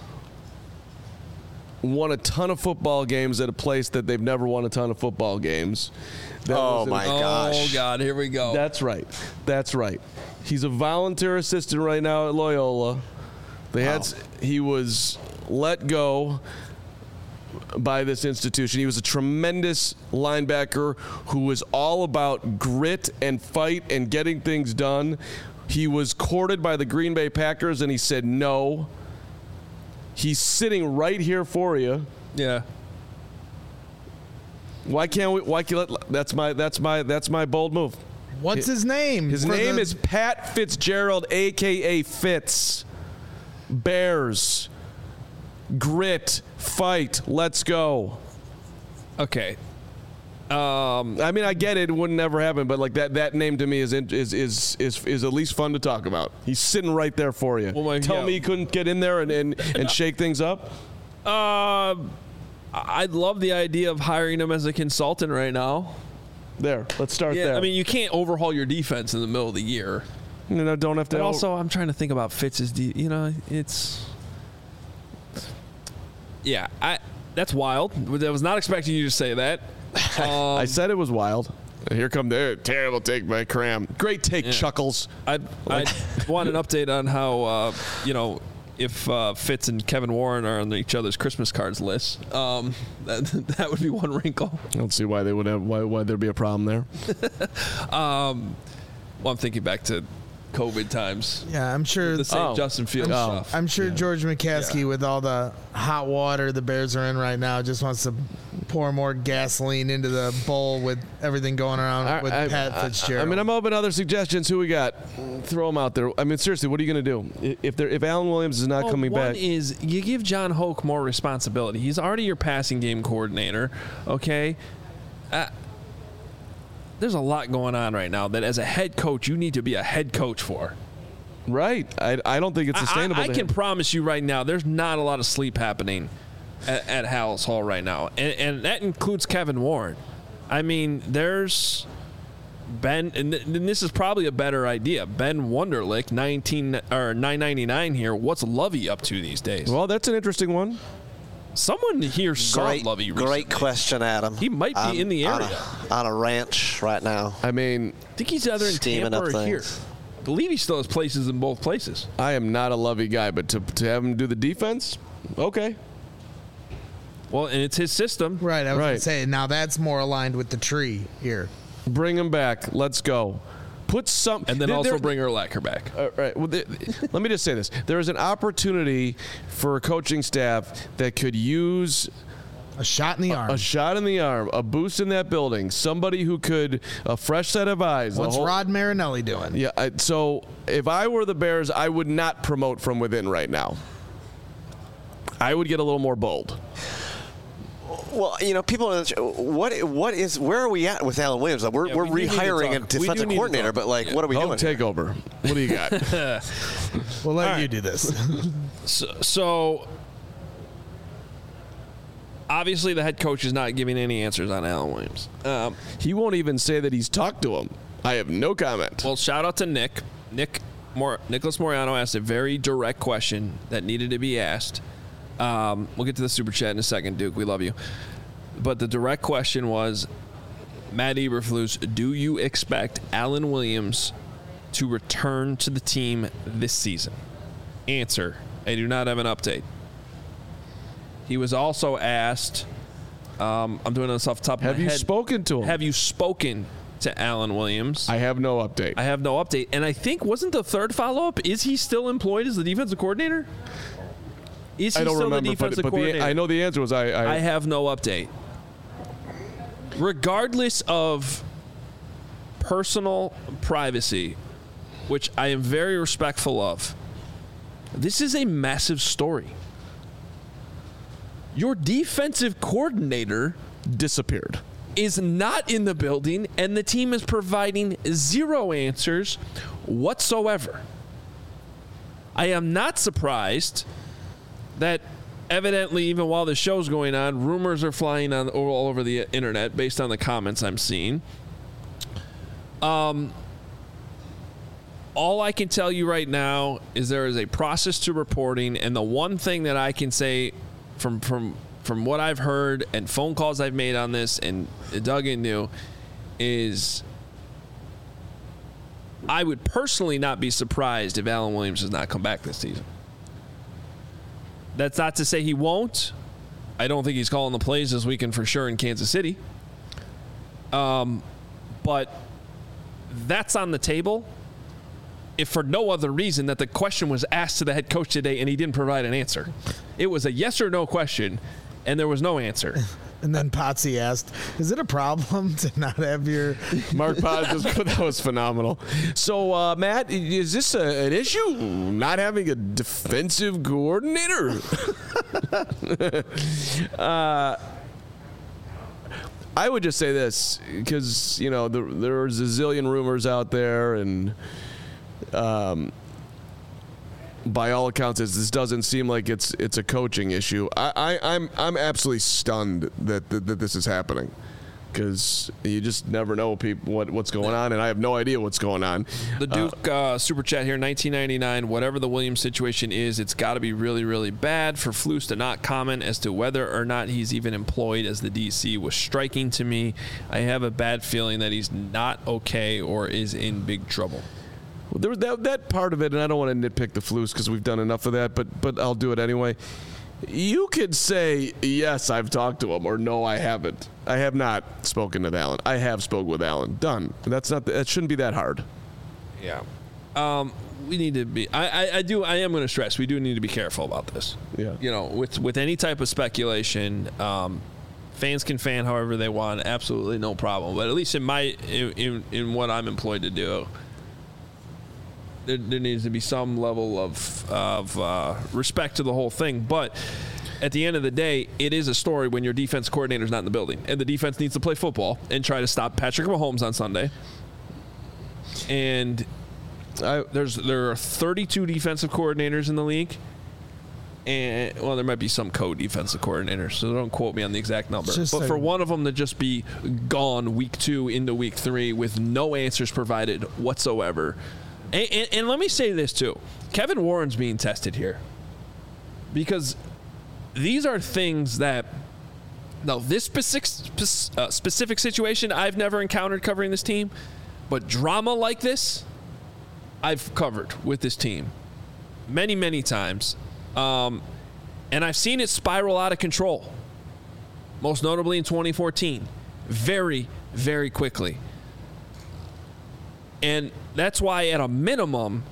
won a ton of football games at a place that they've never won a ton of football games. That Oh, was in- my gosh. Oh, God. Here we go. That's right. That's right. He's a volunteer assistant right now at Loyola. They had s- he was let go by this institution. He was a tremendous linebacker who was all about grit and fight and getting things done. He was courted by the Green Bay Packers, and he said no. He's sitting right here for you. yeah. Why can't we? Why can't? That's my. That's my. That's my bold move. What's his name? His For name the- is Pat Fitzgerald, a k a. Fitz. Bears. Grit. Fight. Let's go. Okay. Um, I mean, I get it. It wouldn't never happen, but like that, that name to me is is is is is at least fun to talk about. He's sitting right there for you. Well, my- Tell yeah. me you couldn't get in there and, and, and shake things up? uh, I'd love the idea of hiring him as a consultant right now. There. Let's start Yeah, there. I mean, you can't overhaul your defense in the middle of the year. you know, don't have to. But also, I'm trying to think about Fitz's. De- you know, it's yeah. I that's wild. I was not expecting you to say that. Um, I said it was wild. Here come the terrible take by Cram. Great take, Yeah. Chuckles. I I want an update on how uh, you know if uh, Fitz and Kevin Warren are on each other's Christmas cards list. Um, that that would be one wrinkle. I don't see why they would have. Why why there'd be a problem there. Um, well, I'm thinking back to COVID times. Yeah, I'm sure. The same Oh. Justin Fields Oh. stuff. I'm sure George McCaskey, Yeah. with all the hot water the Bears are in right now, just wants to pour more gasoline into the bowl with everything going around with I, Pat I- Fitzgerald. I mean, I'm open to other suggestions. Who we got? Throw them out there. I mean, seriously, what are you going to do if there if Alan Williams is not Well, coming one back? is you give John Hoke more responsibility. He's already your passing game coordinator. Okay. Uh, there's a lot going on right now that as a head coach you need to be a head coach for. Right. I, I don't think it's sustainable. I, I can promise you right now, there's not a lot of sleep happening at, at Halas Hall right now, and, and that includes Kevin Warren. I mean, there's Ben, and, th- and this is probably a better idea. Ben Wunderlich, nineteen or nine ninety-nine here. What's Lovey up to these days? Well, that's an interesting one. Someone here saw Great, Lovey recently. great question, Adam. He might be on, in the area. On a, on a ranch right now. I mean, I think he's either in Steaming Tampa up or here. things. I believe he still has places in both places. I am not a Lovey guy, but to to have him do the defense, okay. Well, and it's his system. Right, I was Right. going to say, now that's more aligned with the tree here. Bring him back. Let's go. Put some, And then there- also there- bring Urlacher back. Uh, right. Well, the, let me just say this: there is an opportunity for a coaching staff that could use A shot in the arm. a shot in the arm, a boost in that building, somebody who could a fresh set of eyes. a What's whole- Rod Marinelli doing? Yeah. I, so if I were the Bears, I would not promote from within right now. I would get a little more bold. Well, you know, people. What what is where are we at with Alan Williams? We're Yeah, we're we do need to rehiring a talk. We do defensive need to coordinator, talk. but like, Yeah. what are we Home doing? take over. What do you got? We'll let All you right. do this. So, so obviously the head coach is not giving any answers on Alan Williams. Um, He won't even say that he's talked to him. I have no comment. well, shout out to Nick. Nick Mor- Nicholas Moriano asked a very direct question that needed to be asked. Um, we'll get to the super chat in a second, Duke. We love you. But the direct question was, Matt Eberflus, do you expect Alan Williams to return to the team this season? Answer, I do not have an update. He was also asked, um, I'm doing this off the top of Have my you head. spoken to him? Have you spoken to Alan Williams? I have no update. I have no update. And I think, wasn't the third follow-up, is he still employed as the defensive coordinator? Is he I don't still remember, the but, defensive but coordinator? the, I know the answer was I. I, I have no update. Regardless of personal privacy, which I am very respectful of, this is a massive story. Your defensive coordinator disappeared. is not in the building, and the team is providing zero answers whatsoever. I am not surprised that evidently, even while the show's going on, rumors are flying on all over the internet based on the comments I'm seeing. Um, all I can tell you right now is there is a process to reporting, and the one thing that I can say from from from what I've heard and phone calls I've made on this and dug into is I would personally not be surprised if Alan Williams does not come back this season. That's not to say he won't. I don't think he's calling the plays this weekend for sure in Kansas City. Um, but that's on the table if for no other reason that the question was asked to the head coach today and he didn't provide an answer. It was a yes or no question, and there was no answer. And then Potsy asked, is it a problem to not have your... Mark Potts, that was phenomenal. So, uh, Matt, is this a, an issue, not having a defensive coordinator? uh, I would just say this, because, you know, the, there's a zillion rumors out there, and um, by all accounts, this doesn't seem like it's it's a coaching issue. I, I, I'm I'm absolutely stunned that that, that this is happening, because you just never know people what what's going on, and I have no idea what's going on. The Duke uh, super chat here, nineteen ninety-nine. Whatever the Williams situation is, it's got to be really, really bad for Flus to not comment as to whether or not he's even employed as the D C was striking to me. I have a bad feeling that he's not okay or is in big trouble. Well, there was that, that part of it, and I don't want to nitpick the Flus because we've done enough of that, but but I'll do it anyway. You could say, yes, I've talked to him, or no, I haven't. I have not spoken with Alan. I have spoken with Alan. Done. That's not. That shouldn't be that hard. Yeah. Um, we need to be. I, I, I do. I am going to stress. We do need to be careful about this. Yeah. You know, with with any type of speculation, um, fans can fan however they want. Absolutely no problem. But at least in my in in, in what I'm employed to do, there, there needs to be some level of of uh, respect to the whole thing. But at the end of the day, it is a story when your defense coordinator is not in the building, and the defense needs to play football and try to stop Patrick Mahomes on Sunday. And I, There's there are thirty-two defensive coordinators in the league. And well, there might be some co-defensive coordinators, so don't quote me on the exact number. But a, for one of them to just be gone week two into week three with no answers provided whatsoever. And, and, and let me say this too. Kevin Warren's being tested here. Because these are things that, now this specific, uh, specific situation I've never encountered covering this team, but drama like this, I've covered with this team many, many times. Um, and I've seen it spiral out of control, most notably in twenty fourteen, very, very quickly. And that's why, at a minimum,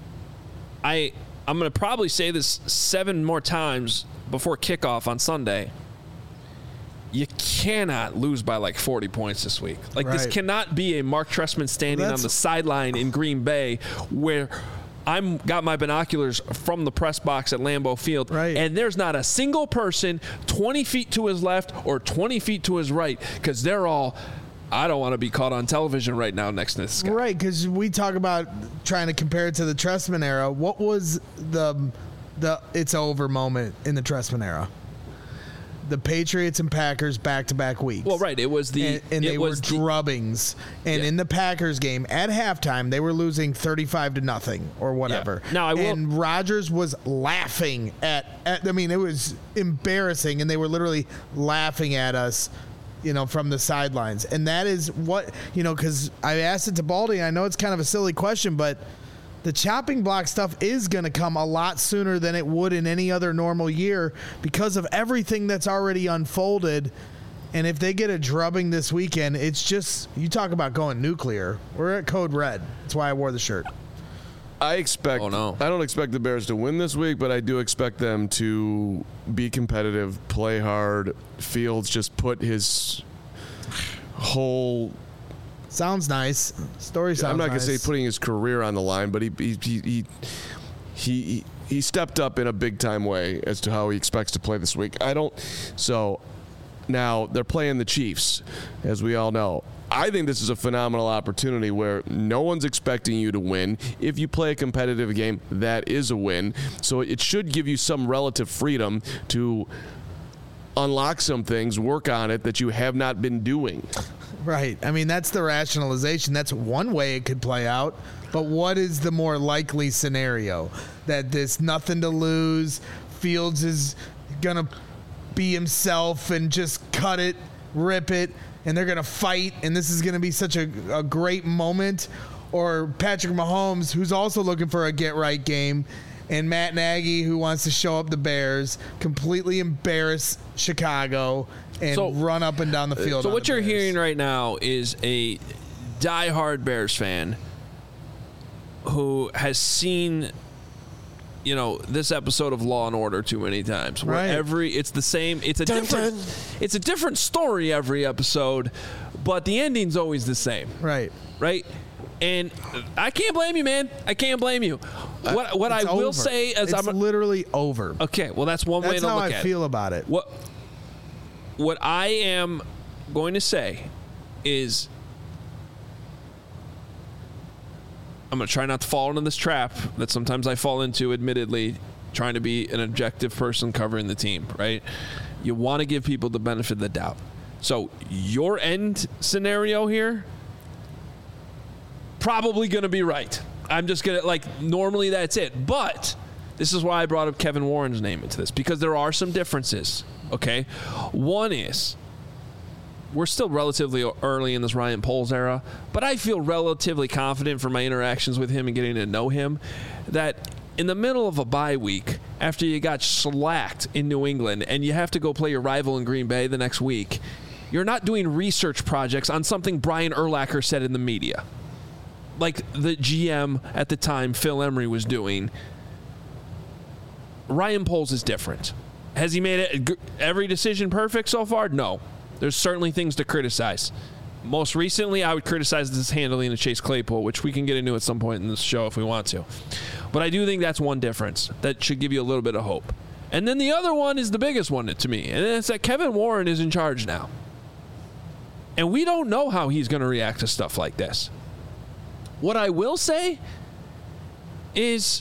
I, I'm going to probably say this seven more times before kickoff on Sunday. You cannot lose by like forty points this week. Like, right. This cannot be a Mark Trestman standing Well, on the sideline in Green Bay where I'm got my binoculars from the press box at Lambeau Field, right. and there's not a single person twenty feet to his left or twenty feet to his right, because they're all, I don't want to be caught on television right now next to this guy. Right, because we talk about trying to compare it to the Trestman era. What was the the it's over moment in the Trestman era? The Patriots and Packers back-to-back weeks. Well, right. It was the and, and it they was were the, drubbings. And Yeah. in the Packers game at halftime, they were losing thirty-five to nothing or whatever. Yeah. Now, I will- and Rodgers was laughing at, at. I mean, it was embarrassing, and they were literally laughing at us, you know, from the sidelines. And that is what, you know, because I asked it to Baldy. I know it's kind of a silly question, but the chopping block stuff is going to come a lot sooner than it would in any other normal year because of everything that's already unfolded. And if they get a drubbing this weekend, it's just, you talk about going nuclear. We're at Code Red. That's why I wore the shirt. I expect. Oh, no. I don't expect the Bears to win this week, but I do expect them to be competitive, play hard. Fields just put his whole. Sounds nice. Story sounds I'm not nice. gonna say putting his career on the line, but he he he he he, he stepped up in a big time way as to how he expects to play this week. I don't. So now they're playing the Chiefs, as we all know. I think this is a phenomenal opportunity where no one's expecting you to win. If you play a competitive game, that is a win. So it should give you some relative freedom to unlock some things, work on it that you have not been doing. Right. I mean, that's the rationalization. That's one way it could play out. But what is the more likely scenario? That this nothing to lose, Fields is going to be himself and just cut it, rip it, and they're going to fight, and this is going to be such a, a great moment? Or Patrick Mahomes, who's also looking for a get-right game, and Matt Nagy, who wants to show up the Bears, completely embarrass Chicago and So- run up and down the field. So on what the you're Bears. hearing right now is a diehard Bears fan who has seen, you know, this episode of Law and Order too many times. Where Right. every it's the same. It's a Dun, different. dun. It's a different story every episode, but the ending's always the same. Right. Right. And I can't blame you, man. I can't blame you. What what I It's will over. say is it's I'm literally over. okay. Well, that's one way That's to how look I at feel it. about it. What what I am going to say is I'm going to try not to fall into this trap that sometimes I fall into, admittedly, trying to be an objective person covering the team, right? You want to give people the benefit of the doubt. So your end scenario here, probably going to be right. I'm just going to, like, normally that's it. But this is why I brought up Kevin Warren's name into this, because there are some differences, okay? One is, we're still relatively early in this Ryan Poles era, but I feel relatively confident from my interactions with him and getting to know him that in the middle of a bye week, after you got slacked in New England and you have to go play your rival in Green Bay the next week, you're not doing research projects on something Brian Urlacher said in the media, like the G M at the time, Phil Emery, was doing. Ryan Poles is different. Has he made it every decision perfect so far? No. There's certainly things to criticize. Most recently, I would criticize this handling of Chase Claypool, which we can get into at some point in this show if we want to. But I do think that's one difference that should give you a little bit of hope. And then the other one is the biggest one to me, and it's that Kevin Warren is in charge now. And we don't know how he's going to react to stuff like this. What I will say is,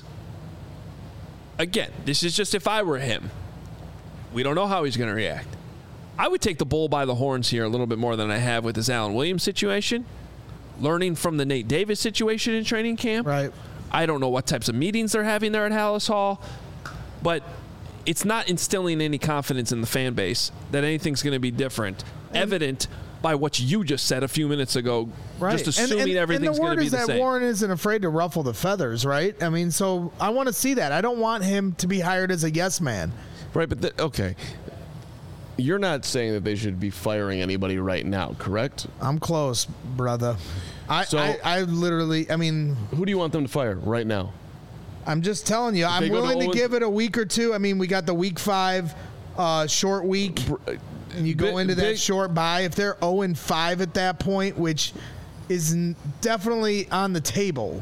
again, this is just if I were him. We don't know how he's going to react. I would take the bull by the horns here a little bit more than I have with this Alan Williams situation. Learning from the Nate Davis situation in training camp. Right. I don't know what types of meetings they're having there at Hallis Hall, but it's not instilling any confidence in the fan base that anything's going to be different. And evident by what you just said a few minutes ago, right. just assuming and, and, everything's going to be the same. And the word is that Warren isn't afraid to ruffle the feathers, right? I mean, so I want to see that. I don't want him to be hired as a yes man. Right, but the, okay. You're not saying that they should be firing anybody right now, correct? I'm close, brother. I, so, I, I literally, I mean... Who do you want them to fire right now? I'm just telling you. If I'm willing to, to give it a week or two. I mean, we got the week five uh, short week. And you go big, into that big, short bye. If they're oh and five at that point, which is definitely on the table...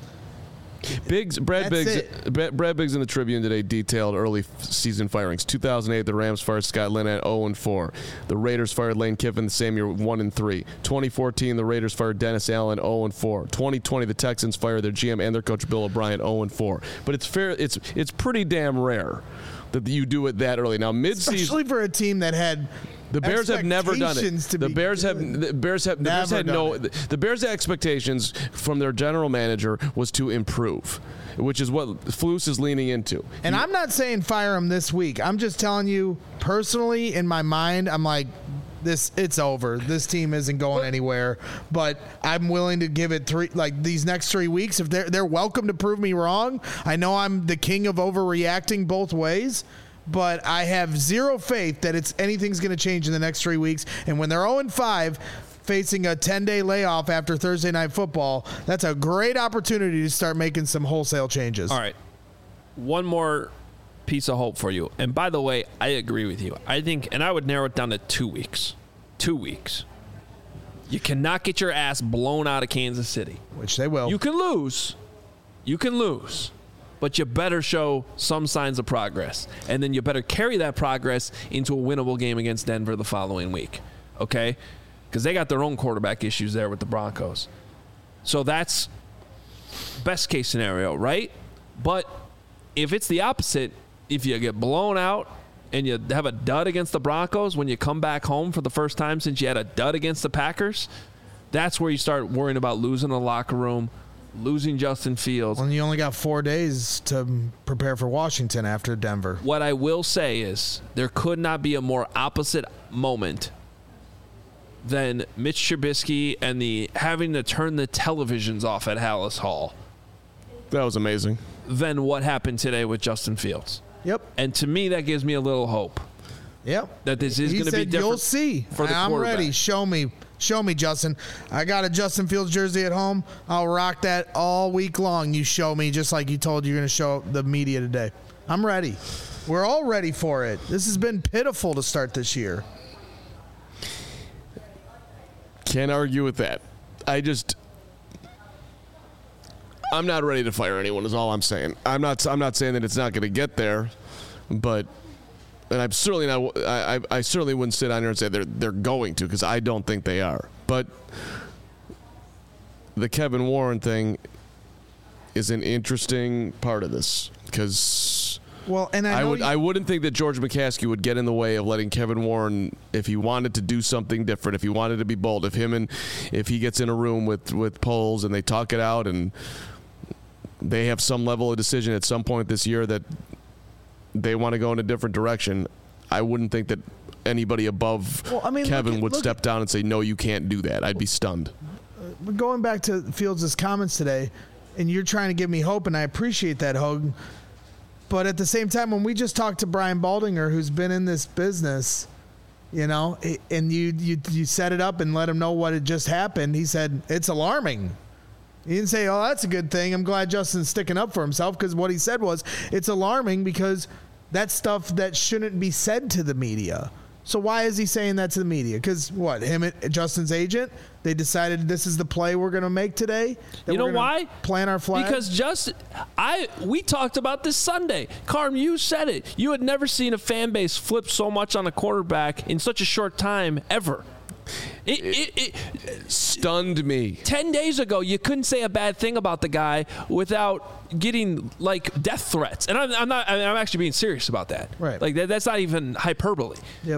Biggs, Brad That's Biggs, it. Brad Biggs in the Tribune today detailed early season firings. two thousand eight, the Rams fired Scott Lynn at oh and four. The Raiders fired Lane Kiffin the same year, one and three. twenty fourteen, the Raiders fired Dennis Allen, oh and four. twenty twenty, the Texans fired their G M and their coach Bill O'Brien, oh and four. But it's fair. It's it's pretty damn rare that you do it that early. Now, mid-season, especially for a team that had. The Bears have never done it. The Bears have the Bears have the Bears had no it. the Bears' expectations from their general manager was to improve, which is what Flus is leaning into. And he, I'm not saying fire him this week. I'm just telling you personally in my mind, I'm like this it's over. This team isn't going anywhere, but I'm willing to give it three like these next three weeks if they're they're welcome to prove me wrong. I know I'm the king of overreacting both ways. But I have zero faith that it's anything's going to change in the next three weeks. And when they're oh and five, facing a ten-day layoff after Thursday Night Football, that's a great opportunity to start making some wholesale changes. All right. One more piece of hope for you. And by the way, I agree with you. I think, and I would narrow it down to two weeks. Two weeks. You cannot get your ass blown out of Kansas City. Which they will. You can lose. You can lose. But you better show some signs of progress. And then you better carry that progress into a winnable game against Denver the following week. Okay? Because they got their own quarterback issues there with the Broncos. So that's best case scenario, right? But if it's the opposite, if you get blown out and you have a dud against the Broncos when you come back home for the first time since you had a dud against the Packers, that's where you start worrying about losing the locker room, losing Justin Fields. And you only got four days to prepare for Washington after Denver. What I will say is there could not be a more opposite moment than Mitch Trubisky and the having to turn the televisions off at Hallis Hall. That was amazing. Than what happened today with Justin Fields. Yep. And to me, that gives me a little hope. Yep. That this is going to be different. You'll see. For the I'm ready. Show me. Show me, Justin. I got a Justin Fields jersey at home. I'll rock that all week long. You show me just like you told you're going to show the media today. I'm ready. We're all ready for it. This has been pitiful to start this year. Can't argue with that. I just... I'm not ready to fire anyone is all I'm saying. I'm not I'm not saying that it's not going to get there, but... And I'm certainly not. I, I certainly wouldn't sit down here and say they're they're going to, because I don't think they are. But the Kevin Warren thing is an interesting part of this, because well, and I, I would you- I wouldn't think that George McCaskey would get in the way of letting Kevin Warren, if he wanted to do something different, if he wanted to be bold, if him and if he gets in a room with with Poles and they talk it out and they have some level of decision at some point this year that they want to go in a different direction, I wouldn't think that anybody above well, I mean, Kevin at, would step down and say, no, you can't do that. I'd be stunned. Uh, going back to Fields' comments today, and you're trying to give me hope, and I appreciate that, Hogue. But at the same time, when we just talked to Brian Baldinger, who's been in this business, you know, and you, you, you set it up and let him know what had just happened, he said, it's alarming. He didn't say, oh, that's a good thing. I'm glad Justin's sticking up for himself, because what he said was, it's alarming because that's stuff that shouldn't be said to the media. So why is he saying that to the media? Because what, him and Justin's agent, they decided this is the play we're going to make today? You know why? Plant our flag? Because Justin, I we talked about this Sunday. Carm, you said it. You had never seen a fan base flip so much on a quarterback in such a short time ever. It, it, it stunned me. Ten days ago, you couldn't say a bad thing about the guy without getting like death threats, and I'm, I'm not. I mean, I'm actually being serious about that. Right. Like that, that's not even hyperbole. Yep.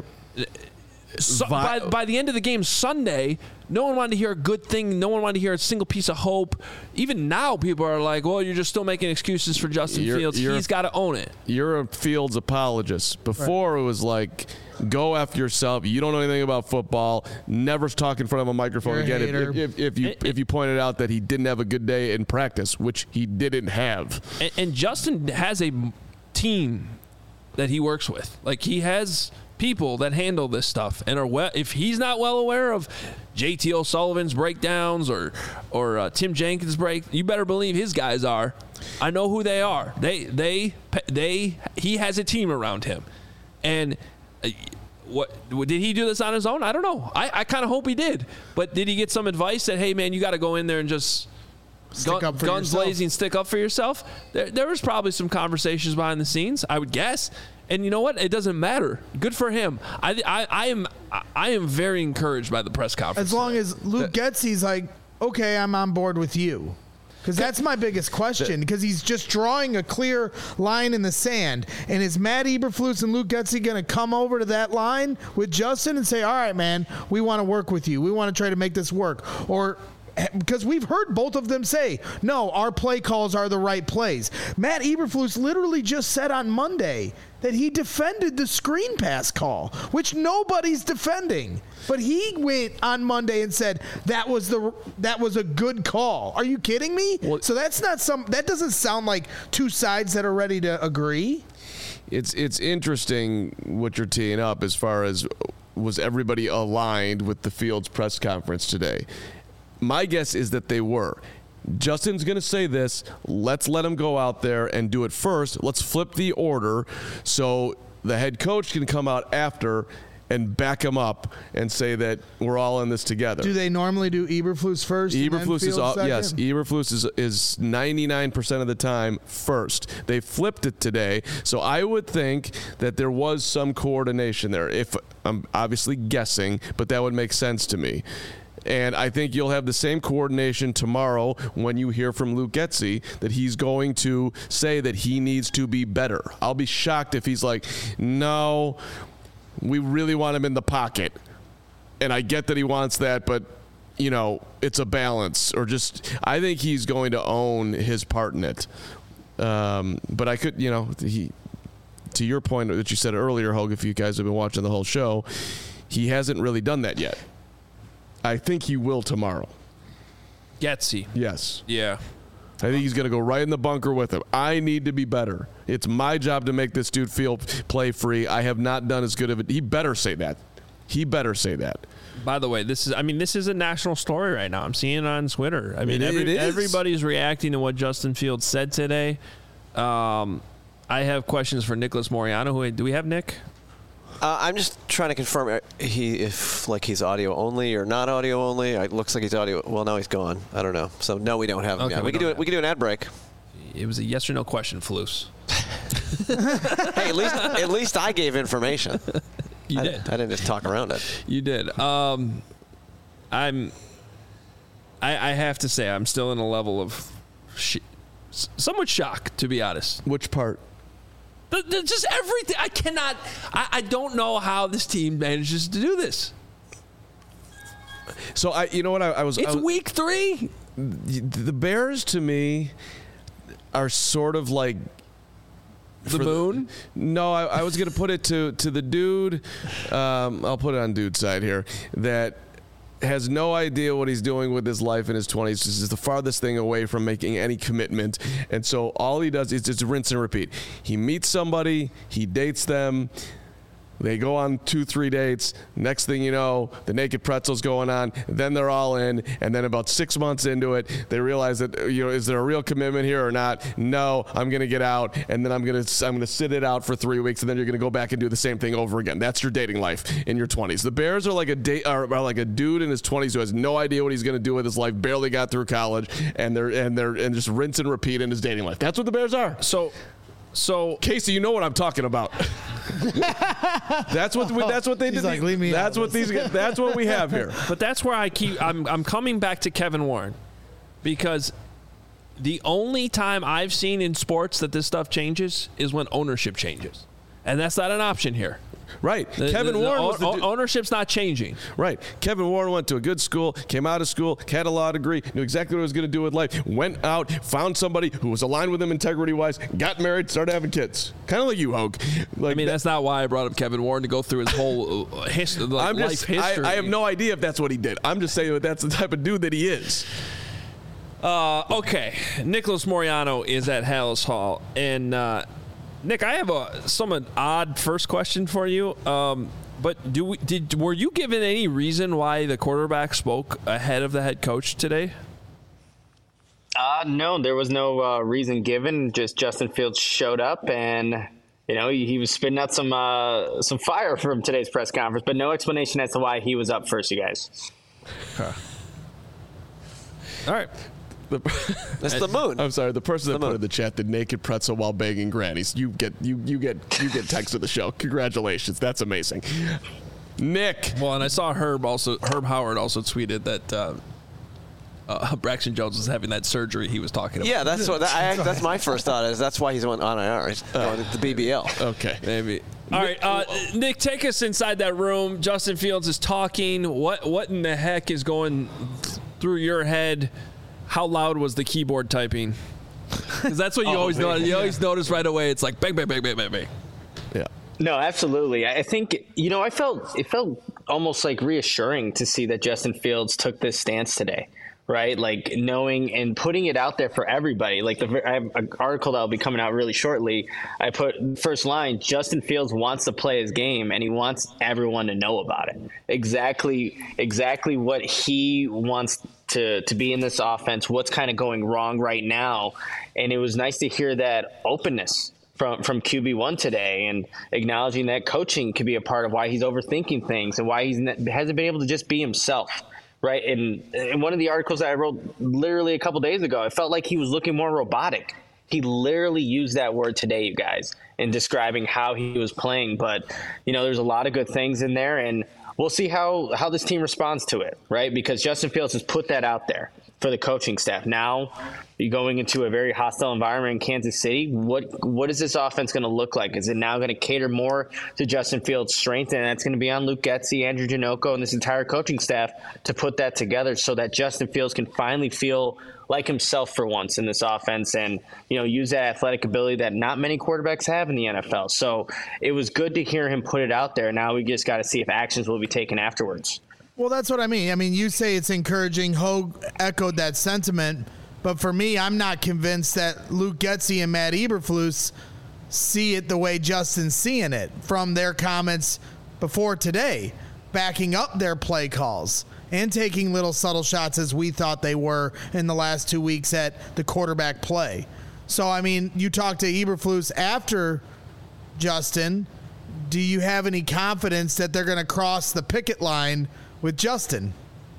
So, by, by the end of the game Sunday, no one wanted to hear a good thing. No one wanted to hear a single piece of hope. Even now, people are like, well, you're just still making excuses for Justin You're- Fields. you're- He's got to own it. You're a Fields apologist. Before it was like, go after yourself. You don't know anything about football. Never talk in front of a microphone You're a again. If, hater. if, if you It- if you pointed out that he didn't have a good day in practice, which he didn't have. And, and Justin has a team that he works with. Like, he has people that handle this stuff and are well. If he's not well aware of J T O'Sullivan's breakdowns or or uh, Tim Jenkins' break, you better believe his guys are. I know who they are. They they they he has a team around him, and. Uh, What did he do this on his own? I don't know. I, I kind of hope he did. But did he get some advice that, hey man, you got to go in there and just Stick up for guns yourself. blazing, stick up for yourself? There, there was probably some conversations behind the scenes, I would guess. And you know what? It doesn't matter. Good for him. I I, I am I am very encouraged by the press conference. As long today. as Luke Getsy's like, okay, I'm on board with you. Because that's my biggest question, because he's just drawing a clear line in the sand. And is Matt Eberflus and Luke Getsy going to come over to that line with Justin and say, all right, man, we want to work with you. We want to try to make this work. Or because we've heard both of them say, no, our play calls are the right plays. Matt Eberflus literally just said on Monday that he defended the screen pass call, which nobody's defending. But he went on Monday and said that was the that was a good call. Are you kidding me? Well, so that's not some that doesn't sound like two sides that are ready to agree. It's it's interesting what you're teeing up as far as was everybody aligned with the Fields press conference today. My guess is that they were. Justin's going to say this. Let's let him go out there and do it first. Let's flip the order so the head coach can come out after and back him up and say that we're all in this together. Do they normally do Eberflus first? and then Eberflus is Fields all, second? yes. Eberflus is is ninety-nine percent of the time first. They flipped it today, so I would think that there was some coordination there. If I'm obviously guessing, but that would make sense to me. And I think you'll have the same coordination tomorrow when you hear from Luke Getsy that he's going to say that he needs to be better. I'll be shocked if he's like, no, we really want him in the pocket. And I get that he wants that, but, you know, it's a balance. Or just, I think he's going to own his part in it. Um, but I could, you know, he, to your point that you said earlier, Hogue, if you guys have been watching the whole show, he hasn't really done that yet. I think he will tomorrow. Getsy. Yes. Yeah. I think he's going to go right in the bunker with him. I need to be better. It's my job to make this dude feel play free. I have not done as good of it. He better say that. He better say that. By the way, this is I mean, this is a national story right now. I'm seeing it on Twitter. I mean, It- every, it is. everybody's reacting to what Justin Fields said today. Um, I have questions for Nicholas Moreano. Who do we have, Nick? Uh, I'm just trying to confirm uh, he if like he's audio only or not audio only. It looks like he's audio. Well, now he's gone. I don't know. So no, we don't have him Okay, yet. we We, can don't do it. have We can do an ad break. It was a yes or no question, Flus. Hey, at least at least I gave information. You I, did. I didn't just talk around it. You did. Um, I'm. I, I have to say, I'm still in a level of sh- somewhat shock, to be honest. Which part? The, the, just everything. I cannot. I, I don't know how this team manages to do this. So I, you know what I, I was. It's I was, week three. The Bears to me are sort of like The for moon. No, I, I was going to put it to to the dude. Um, I'll put it on dude's side here. That has no idea what he's doing with his life in his twenties. This is the farthest thing away from making any commitment. And so all he does is just rinse and repeat. He meets somebody, he dates them, they go on two, three dates. Next thing you know, the naked pretzel's going on. Then they're all in. And then about six months into it, they realize that, you know, is there a real commitment here or not? No, I'm going to get out. And then I'm going to I'm going to sit it out for three weeks. And then you're going to go back and do the same thing over again. That's your dating life in your twenties. The Bears are like a date, are, are like a dude in his twenties who has no idea what he's going to do with his life. Barely got through college, and they're and they're and just rinse and repeat in his dating life. That's what the Bears are. So, so Casey, you know what I'm talking about. That's what we, that's what they He's did. like, leave me that's out what of these. this. That's what we have here. But that's where I keep. I'm I'm coming back to Kevin Warren, because the only time I've seen in sports that this stuff changes is when ownership changes, and that's not an option here. Right. The, Kevin the, Warren the, was the o- du- ownership's not changing. Right. Kevin Warren went to a good school, came out of school, had a law degree, knew exactly what he was going to do with life, went out, found somebody who was aligned with him integrity-wise, got married, started having kids. Kind of like you, Hogue. Like I mean, that- that's not why I brought up Kevin Warren to go through his whole uh, his, like, I'm life just, history. I, I have no idea if that's what he did. I'm just saying that that's the type of dude that he is. Uh, okay, Nicholas Moreano is at Hallis Hall, and uh, Nick, I have a somewhat odd first question for you. Um, but do we, did were you given any reason why the quarterback spoke ahead of the head coach today? Uh, no, there was no uh, reason given. Just Justin Fields showed up, and you know he, he was spitting out some uh, some fire from today's press conference, but no explanation as to why he was up first. You guys. Huh. All right. The, That's the moon. I'm sorry. The person that The put moon. in the chat, the naked pretzel while begging grannies. You get you you get you get text of the show. Congratulations. That's amazing. Nick. Well, and I saw Herb also. Herb Howard also tweeted that uh, uh, Braxton Jones was having that surgery he was talking about. Yeah, that's what. That, I, that's my first thought. Is that's why he's on I R. He's going to the B B L. Okay. Maybe. All right, uh, Nick, take us inside that room. Justin Fields is talking. What what in the heck is going through your head? How loud was the keyboard typing? Because that's what you Oh, always man. notice. You always notice right away. It's like bang, bang, bang, bang, bang, bang. Yeah. No, absolutely. I think, you know, I felt it felt almost like reassuring to see that Justin Fields took this stance today, right? Like knowing and putting it out there for everybody. Like the I have an article that will be coming out really shortly. I put first line, Justin Fields wants to play his game and he wants everyone to know about it. Exactly, exactly what he wants to to be in this offense, what's kind of going wrong right now. And it was nice to hear that openness from from Q B one today, and acknowledging that coaching could be a part of why he's overthinking things and why he hasn't been able to just be himself, right? And in one of the articles that I wrote literally a couple days ago, I felt like he was looking more robotic. He literally used that word today, you guys, in describing how he was playing. But, you know, there's a lot of good things in there, and we'll see how, how this team responds to it, right? Because Justin Fields has put that out there for the coaching staff. Now you're going into a very hostile environment in Kansas City. What what is this offense going to look like? Is it now going to cater more to Justin Fields' strength? And that's going to be on Luke Getsy, Andrew Janocko, and this entire coaching staff to put that together so that Justin Fields can finally feel like himself for once in this offense and, you know, use that athletic ability that not many quarterbacks have in the N F L. So it was good to hear him put it out there. Now we just got to see if actions will be taken afterwards. Well, that's what I mean. I mean, you say it's encouraging. Hogue echoed that sentiment. But for me, I'm not convinced that Luke Getsy and Matt Eberflus see it the way Justin's seeing it from their comments before today, backing up their play calls and taking little subtle shots as we thought they were in the last two weeks at the quarterback play. So, I mean, you talked to Eberflus after Justin. Do you have any confidence that they're going to cross the picket line with Justin?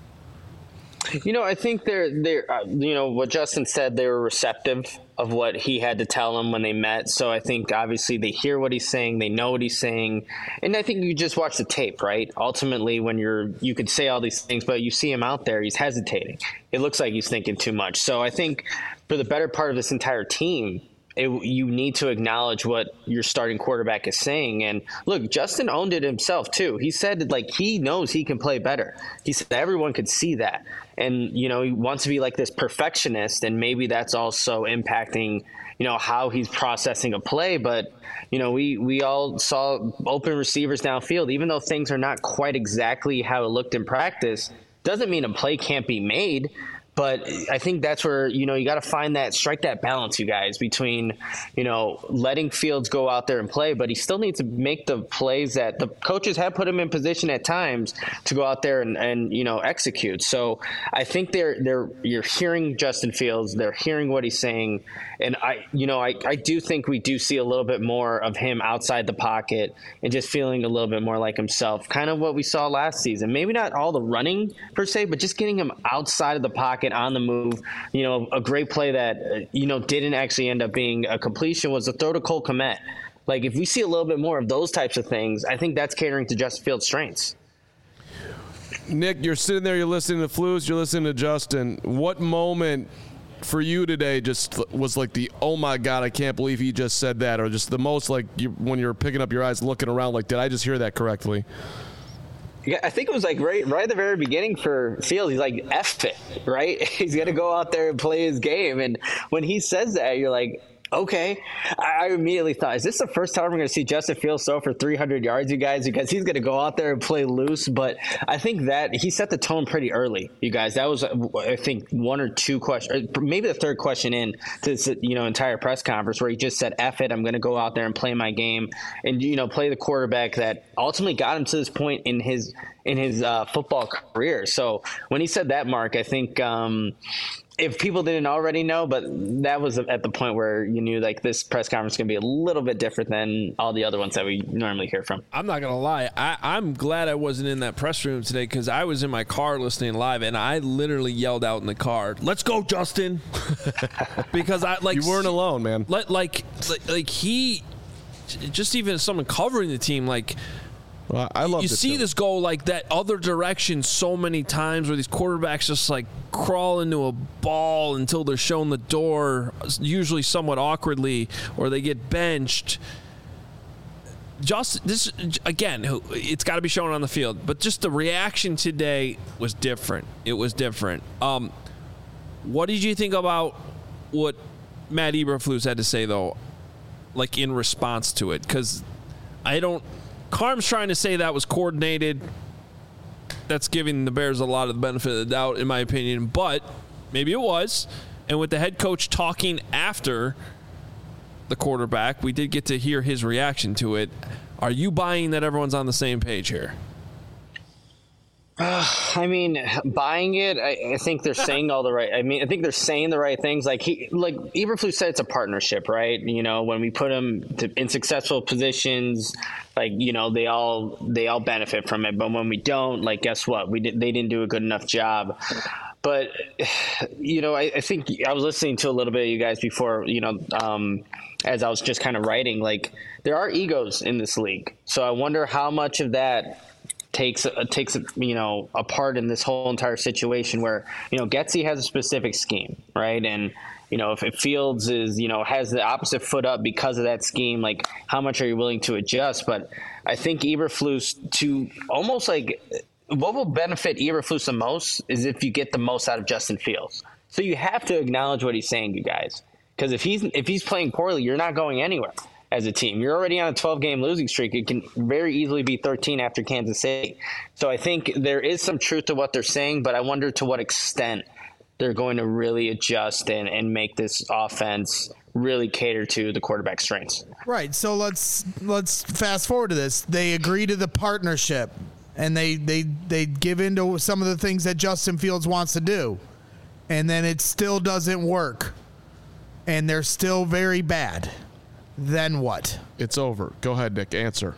You know, I think they're they're uh, you know what Justin said. They were receptive of what he had to tell them when they met. So I think obviously they hear what he's saying, they know what he's saying, and I think you just watch the tape, right? Ultimately, when you're you could say all these things, but you see him out there, he's hesitating. It looks like he's thinking too much. So I think for the better part of this entire team, It, you need to acknowledge what your starting quarterback is saying. And look, Justin owned it himself too. He said like he knows he can play better. He said everyone could see that. And, you know, he wants to be like this perfectionist, and maybe that's also impacting, you know, how he's processing a play. But, you know, we, we all saw open receivers downfield, even though things are not quite exactly how it looked in practice, doesn't mean a play can't be made. But I think that's where, you know, you got to find that, strike that balance, you guys, between, you know, letting Fields go out there and play, but he still needs to make the plays that the coaches have put him in position at times to go out there and, and you know, execute. So I think they're, they're, you're hearing Justin Fields, they're hearing what he's saying. And I, you know, I, I do think we do see a little bit more of him outside the pocket and just feeling a little bit more like himself, kind of what we saw last season. Maybe not all the running per se, but just getting him outside of the pocket, on the move. You know, a great play that, uh, you know, didn't actually end up being a completion was the throw to Cole Kmet Like, if we see a little bit more of those types of things, I think that's catering to Justin Fields' strengths. Nick, you're sitting there, you're listening to Flus, you're listening to Justin. What moment for you today just was like the, oh my God, I can't believe he just said that, or just the most like you, when you're picking up your eyes looking around like, did I just hear that correctly? Yeah, I think it was like right right at the very beginning for Fields. He's like, F it, right? He's going to go out there and play his game. And when he says that, you're like, okay. I immediately thought, is this the first time we're going to see Justin Fields throw for three hundred yards, you guys? Because he's going to go out there and play loose. But I think that he set the tone pretty early, you guys. That was, I think, one or two questions, maybe the third question in to this, you know, entire press conference where he just said, F it, I'm going to go out there and play my game and, you know, play the quarterback that ultimately got him to this point in his in his uh, football career. So when he said that, Mark, I think um, – if people didn't already know, but that was at the point where you knew like this press conference is going to be a little bit different than all the other ones that we normally hear from. I'm not going to lie. I, I'm glad I wasn't in that press room today because I was in my car listening live and I literally yelled out in the car, let's go, Justin. Because I like you weren't alone, man. Like, like, like, like he, just even as someone covering the team, like, well, I love you see too. this go like that other direction so many times where these quarterbacks just like crawl into a ball until they're shown the door, usually somewhat awkwardly, or they get benched. Just this again, it's got to be shown on the field, but just the reaction today was different. It was different. Um, what did you think about what Matt Eberflus had to say though, like in response to it? Because I don't. Carm's trying to say that was coordinated. That's giving the Bears a lot of the benefit of the doubt, in my opinion. But maybe it was. And with the head coach talking after the quarterback, we did get to hear his reaction to it. Are you buying that everyone's on the same page here? Uh, I mean, buying it, I, I think they're saying all the right. I mean, I think they're saying the right things. Like he, like Eberflus said, it's a partnership, right? You know, when we put them to, in successful positions, like you know, they all they all benefit from it. But when we don't, like, guess what? We did, they didn't do a good enough job. But you know, I, I think I was listening to a little bit of you guys before. You know, um, as I was just kind of writing, like there are egos in this league. So I wonder how much of that takes uh, takes you know a part in this whole entire situation where you know Getsy has a specific scheme, right? And you know if it Fields is you know has the opposite foot up because of that scheme, like how much are you willing to adjust? But I think Eberflus to almost like what will benefit Eberflus the most is if you get the most out of Justin Fields. So you have to acknowledge what he's saying, you guys, because if he's if he's playing poorly, you're not going anywhere. As a team, you're already on a twelve-game losing streak. It can very easily be thirteen after Kansas City. So I think there is some truth to what they're saying, but I wonder to what extent they're going to really adjust and, and make this offense really cater to the quarterback strengths. Right. So let's let's fast forward to this. They agree to the partnership, and they they they give into some of the things that Justin Fields wants to do, and then it still doesn't work, and they're still very bad. Then what? It's over. Go ahead, Nick. Answer.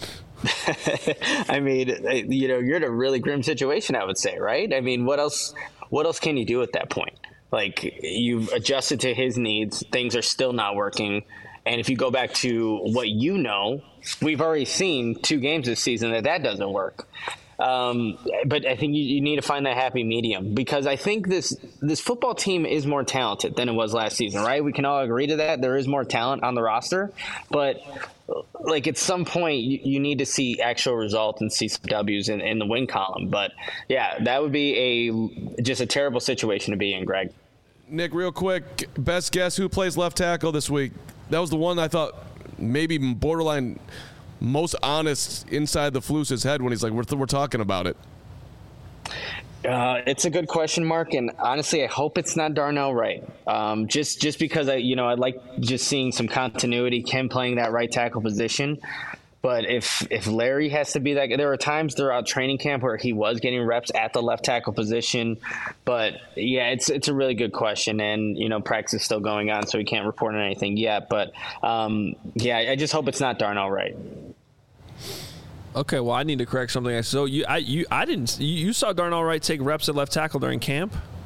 I mean, you know, you're in a really grim situation, I would say, right? I mean, what else? What else can you do at that point? Like, you've adjusted to his needs. Things are still not working. And if you go back to what you know, we've already seen two games this season that that doesn't work. Um, but I think you, you need to find that happy medium because I think this this football team is more talented than it was last season, right? We can all agree to that. There is more talent on the roster, but like at some point you, you need to see actual results and see some W's in, in the win column. But yeah, that would be a just a terrible situation to be in, Greg. Nick, real quick, best guess who plays left tackle this week? That was the one I thought maybe borderline most honest inside the Flus's head when he's like, we're, th- we're talking about it. Uh, it's a good question, Mark, and honestly, I hope it's not Darnell Wright. Um, just just because I, you know, I like just seeing some continuity, him playing that right tackle position. But if if Larry has to be that, there were times throughout training camp where he was getting reps at the left tackle position. But yeah, it's it's a really good question, and you know, practice is still going on, so we can't report on anything yet. But um, yeah, I just hope it's not Darnell Wright. Okay, well, I need to correct something. So you, I, you, I didn't. You saw Darnell Wright take reps at left tackle during camp?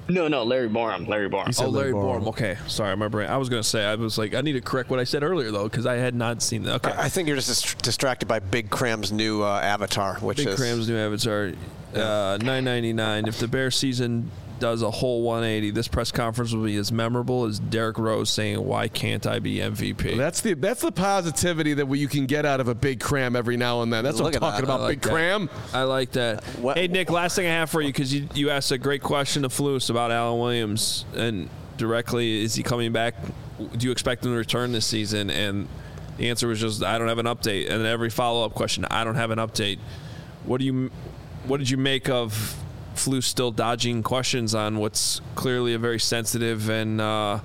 No, no, Larry Borom. Larry Borom. Oh, Larry Borom. Okay, sorry, my brain. I was going to say, I was like, I need to correct what I said earlier though, because I had not seen that. Okay, I, I think you're just dis- distracted by Big Cram's new uh, avatar, which Big is Cram's new avatar, uh, nine ninety-nine. If the Bears season does a whole one eighty, this press conference will be as memorable as Derrick Rose saying, "Why can't I be M V P?" That's the that's the positivity that we, you can get out of a Big Cram every now and then. That's Look what I'm at talking that. about, I like Big that. Cram. I like that. What- Hey, Nick, last thing I have for you, because you, you asked a great question to Flus about Alan Williams, and directly, is he coming back? Do you expect him to return this season? And the answer was just, I don't have an update. And then every follow-up question, I don't have an update. What do you, what did you make of Flus still dodging questions on what's clearly a very sensitive and uh,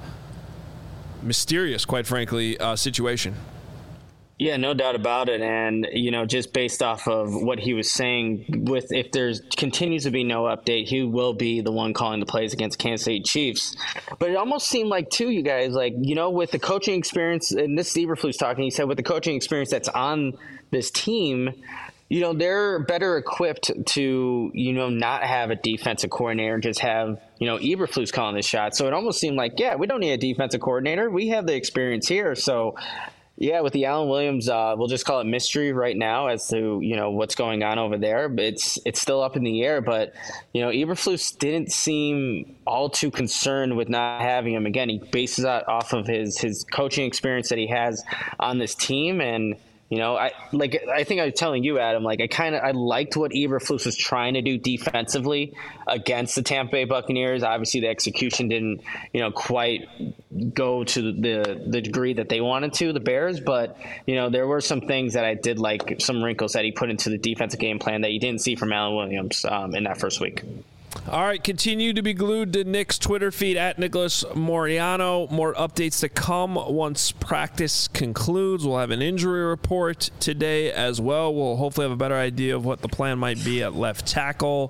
mysterious, quite frankly, uh, situation? Yeah, no doubt about it. And, you know, just based off of what he was saying, with if there's continues to be no update, he will be the one calling the plays against Kansas City Chiefs. But it almost seemed like, too, you guys, like, you know, with the coaching experience, and this is Eberflus talking, he said with the coaching experience that's on this team, you know, they're better equipped to, you know, not have a defensive coordinator and just have, you know, Eberflus calling the shot. So it almost seemed like, yeah, we don't need a defensive coordinator. We have the experience here. So, yeah, with the Alan Williams, uh, we'll just call it mystery right now as to, you know, what's going on over there. But it's it's still up in the air. But, you know, Eberflus didn't seem all too concerned with not having him. Again, he bases that off of his his coaching experience that he has on this team. And, you know, I like I think I was telling you, Adam, like I kind of I liked what Eberflus was trying to do defensively against the Tampa Bay Buccaneers. Obviously, the execution didn't, you know, quite go to the the degree that they wanted to, the Bears. But, you know, there were some things that I did like, some wrinkles that he put into the defensive game plan that you didn't see from Alan Williams um, in that first week. All right, continue to be glued to Nick's Twitter feed at Nicholas Moriano. More updates to come once practice concludes. We'll have an injury report today as well. We'll hopefully have a better idea of what the plan might be at left tackle.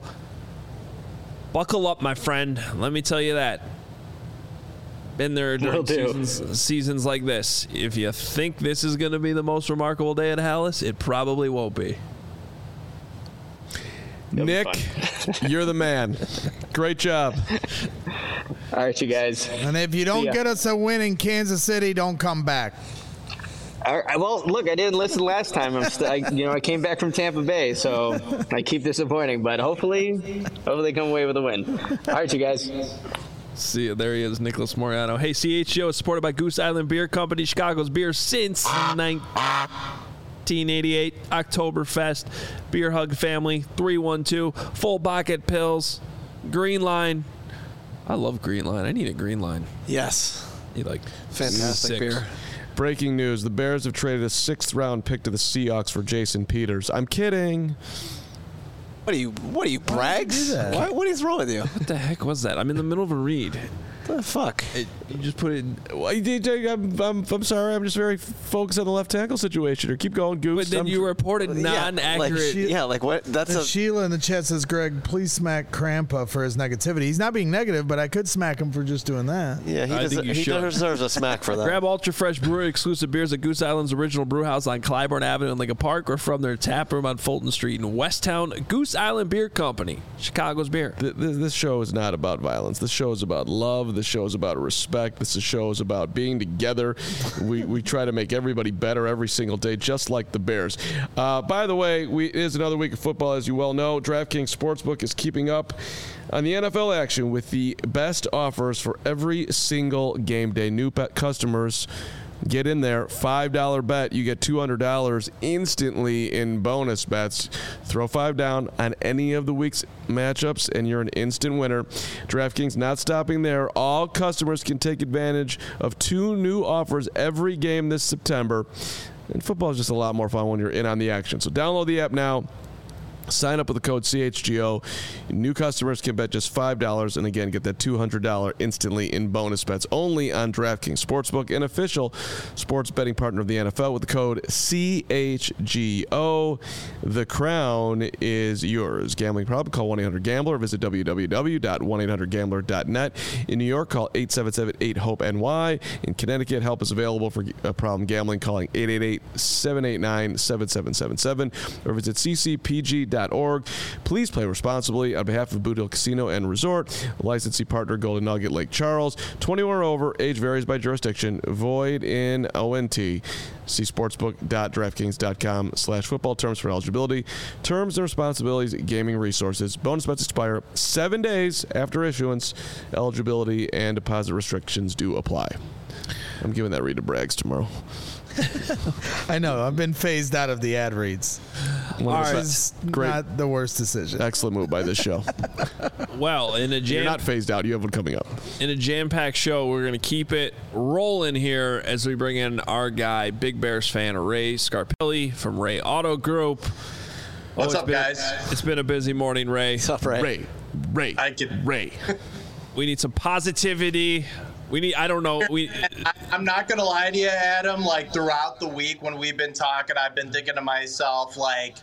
Buckle up, my friend. Let me tell you that. Been there during seasons, seasons like this. If you think this is going to be the most remarkable day at Hallis, it probably won't be. Nick, you're the man. Great job. All right, you guys. And if you don't get us a win in Kansas City, don't come back. All right, well, look, I didn't listen last time. I'm st- I, you know, I came back from Tampa Bay, so I keep disappointing. But hopefully, hopefully they come away with a win. All right, you guys. See you. There he is, Nicholas Moriano. Hey, C H G O is supported by Goose Island Beer Company, Chicago's beer since nineteen eighty-eight. Oktoberfest, Beer Hug Family, three one two, Full Bucket Pills, Green Line. I love Green Line. I need a Green Line. Yes. You like Fantastic six. beer. Breaking news: the Bears have traded a sixth-round pick to the Seahawks for Jason Peters. I'm kidding. What are you? What are you, Braggs? that? Why, what is wrong with you? What the heck was that? I'm in the middle of a read. What the fuck? It, you just put it. Well, D J, I'm, I'm, I'm sorry. I'm just very focused on the left tackle situation. Or keep going, Goose. But then I'm- you reported non-accurate. Like, yeah, like what? That's And a. Sheila in the chat says, Greg, please smack Krampa for his negativity. He's not being negative, but I could smack him for just doing that. Yeah, he, I does, think you he should. deserves a smack for that. Grab Ultra Fresh Brewery exclusive beers at Goose Island's original brew house on Clybourne Avenue in Lincoln Park, or from their tap room on Fulton Street in Westtown. Goose Island Beer Company, Chicago's beer. Th- th- This show is not about violence. This show is about love. This show is about respect. This show is about being together. We we try to make everybody better every single day, just like the Bears. Uh, by the way, we, it is another week of football, as you well know. DraftKings Sportsbook is keeping up on the N F L action with the best offers for every single game day. New pet customers, get in there. five dollar bet. You get two hundred dollars instantly in bonus bets. Throw five down on any of the week's matchups, and you're an instant winner. DraftKings not stopping there. All customers can take advantage of two new offers every game this September. And football is just a lot more fun when you're in on the action. So download the app now. Sign up with the code C H G O. New customers can bet just five dollars and, again, get that two hundred dollars instantly in bonus bets only on DraftKings Sportsbook, an official sports betting partner of the N F L, with the code C H G O. The crown is yours. Gambling problem? Call one eight hundred gambler or visit w w w dot one eight hundred gambler dot net. In New York, call eight seven seven eight hope N Y. In Connecticut, help is available for a problem gambling, calling eight eight eight seven eight nine seven seven seven seven or visit c c p g dot org. Please play responsibly on behalf of Boot Hill Casino and Resort, licensee partner Golden Nugget Lake Charles. twenty-one or over, age varies by jurisdiction, void in O N T. See sportsbook dot draftkings dot com slash football terms for eligibility, terms and responsibilities, gaming resources. Bonus bets expire seven days after issuance. Eligibility and deposit restrictions do apply. I'm giving that read to Braggs tomorrow. I know. I've been phased out of the ad reads. All right. It's Great. not the worst decision. Excellent move by this show. Well, in a jam, You're not phased out. You have one coming up. in a jam-packed show, we're going to keep it rolling here as we bring in our guy, Big Bears fan Ray Scarpelli from Ray Auto Group. What's Oh, up, been, guys? It's been a busy morning, Ray. What's up, Ray? Ray. Ray. I can. Ray. We need some positivity. We need, I don't know. We I, I'm not gonna lie to you, Adam. Like throughout the week when we've been talking, I've been thinking to myself, like,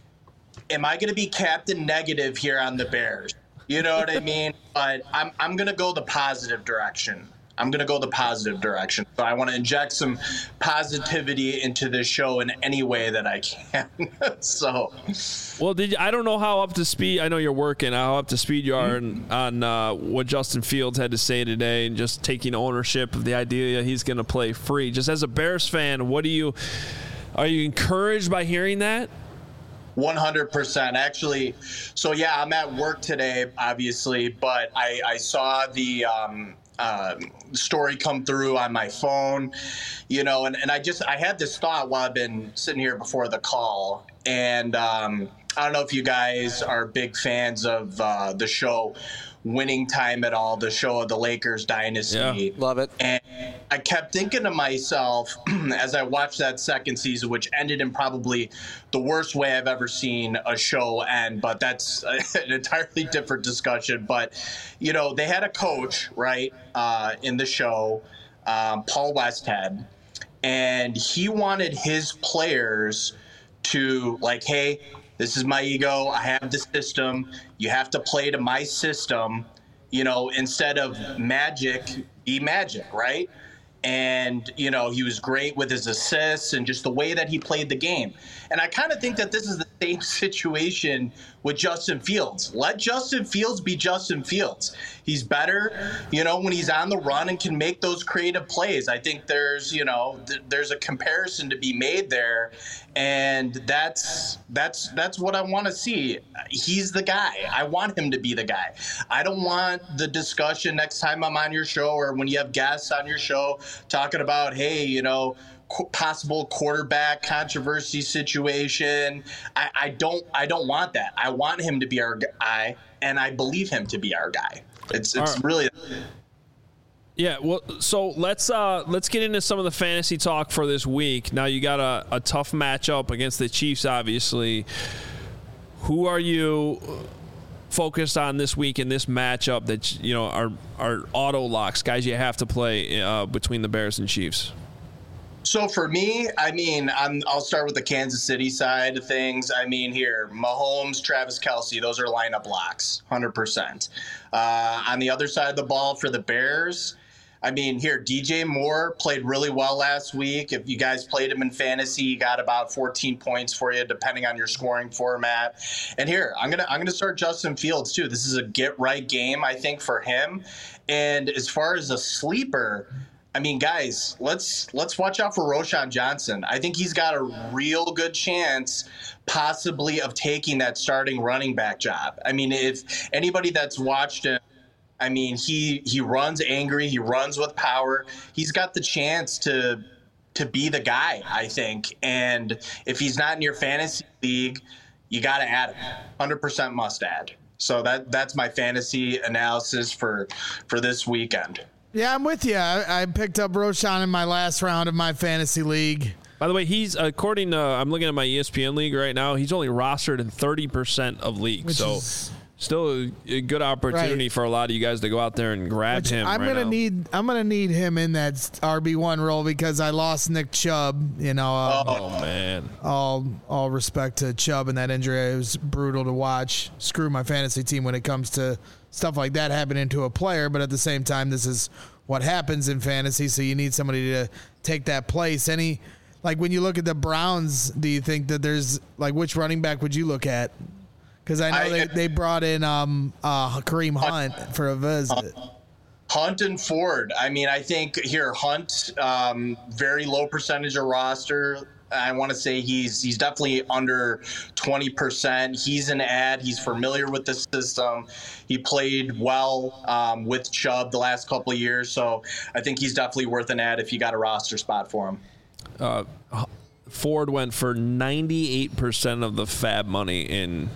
am I gonna be Captain Negative here on the Bears? You know what I mean? But I'm I'm gonna go the positive direction. I'm gonna go the positive direction. So I want to inject some positivity into this show in any way that I can. so. Well, did you, I don't know how up to speed. I know you're working. How up to speed you are mm-hmm. on, on uh, what Justin Fields had to say today, and just taking ownership of the idea that he's going to play free. Just as a Bears fan, what do you are you encouraged by hearing that? one hundred percent. Actually, so yeah, I'm at work today, obviously, but I, I saw the um, uh, story come through on my phone, you know, and, and I just I had this thought while I've been sitting here before the call, and um, I don't know if you guys are big fans of uh, the show Winning Time at all, the show of the Lakers dynasty. Yeah, love it. And I kept thinking to myself as I watched that second season, which ended in probably the worst way I've ever seen a show end, but that's an entirely different discussion. But, you know, they had a coach, right, uh, in the show, um, Paul Westhead, and he wanted his players to, like, hey, this is my ego. I have the system. You have to play to my system, you know, instead of magic, be magic, right? And, you know, he was great with his assists and just the way that he played the game. And I kind of think that this is the same situation with Justin Fields. Let Justin Fields be Justin Fields. He's better, you know, when he's on the run and can make those creative plays. I think there's, you know, th- there's a comparison to be made there. And that's that's that's what I want to see. He's the guy. I want him to be the guy. I don't want the discussion next time I'm on your show or when you have guests on your show talking about, hey, you know, possible quarterback controversy situation. I, I don't I don't want that. I want him to be our guy, and I believe him to be our guy. It's it's right. really Yeah, well, so let's uh, let's get into some of the fantasy talk for this week. Now you got a, a tough matchup against the Chiefs, obviously. Who are you focused on this week in this matchup that you know are are auto locks, guys you have to play uh, between the Bears and Chiefs? So for me, I mean, I'm, I'll start with the Kansas City side of things. I mean, here, Mahomes, Travis Kelce, those are lineup locks, one hundred percent. Uh, on the other side of the ball for the Bears, I mean, here, D J Moore played really well last week. If you guys played him in fantasy, he got about fourteen points for you, depending on your scoring format. And here, I'm gonna I'm gonna start Justin Fields too. This is a get right game, I think, for him. And as far as a sleeper, I mean, guys, let's let's watch out for Roschon Johnson. I think he's got a real good chance possibly of taking that starting running back job. I mean, if anybody that's watched him, I mean, he he runs angry, he runs with power. He's got the chance to to be the guy, I think. And if he's not in your fantasy league, you got to add him. one hundred percent must add. So that that's my fantasy analysis for for this weekend. Yeah, I'm with you. I, I picked up Roschon in my last round of my fantasy league. By the way, he's according to I'm looking at my E S P N league right now. He's only rostered in thirty percent of leagues, Which so is, still a, a good opportunity right. for a lot of you guys to go out there and grab which him. I'm right gonna now. need. I'm gonna need him in that R B one role because I lost Nick Chubb. You know. Uh, Oh man. All all respect to Chubb and that injury. It was brutal to watch. Screw my fantasy team when it comes to stuff like that happening to a player. But at the same time, this is what happens in fantasy, so you need somebody to take that place. Any, like when you look at the Browns, do you think that there's, like, which running back would you look at? Because I know I- they, they brought in um, uh, Kareem Hunt for a visit. Hunt and Ford. I mean, I think here Hunt, um, very low percentage of roster. I want to say he's he's definitely under twenty percent. He's an ad. He's familiar with the system. He played well um, with Chubb the last couple of years, so I think he's definitely worth an ad if you got a roster spot for him. Uh, Ford went for ninety-eight percent of the fab money in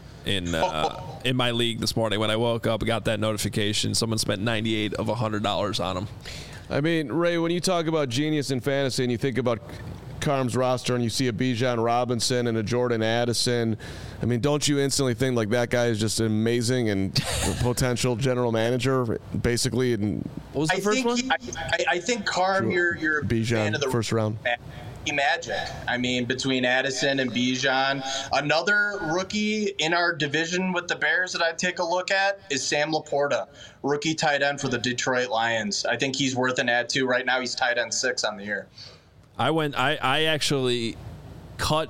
in uh, in my league this morning. When I woke up, I got that notification. Someone spent ninety-eight of one hundred dollars on him. I mean, Ray, when you talk about genius in fantasy and you think about Carm's roster and you see a Bijan Robinson and a Jordan Addison, I mean, don't you instantly think like that guy is just an amazing and potential general manager, basically? And what was the I first think one? He, I, I think Carm, you're you're a Bijan, fan of the first round. Magic. I mean, between Addison and Bijan, another rookie in our division with the Bears that I'd take a look at is Sam Laporta, rookie tight end for the Detroit Lions. I think he's worth an ad too. Right now, he's tight end six on the year. I went. I, I actually cut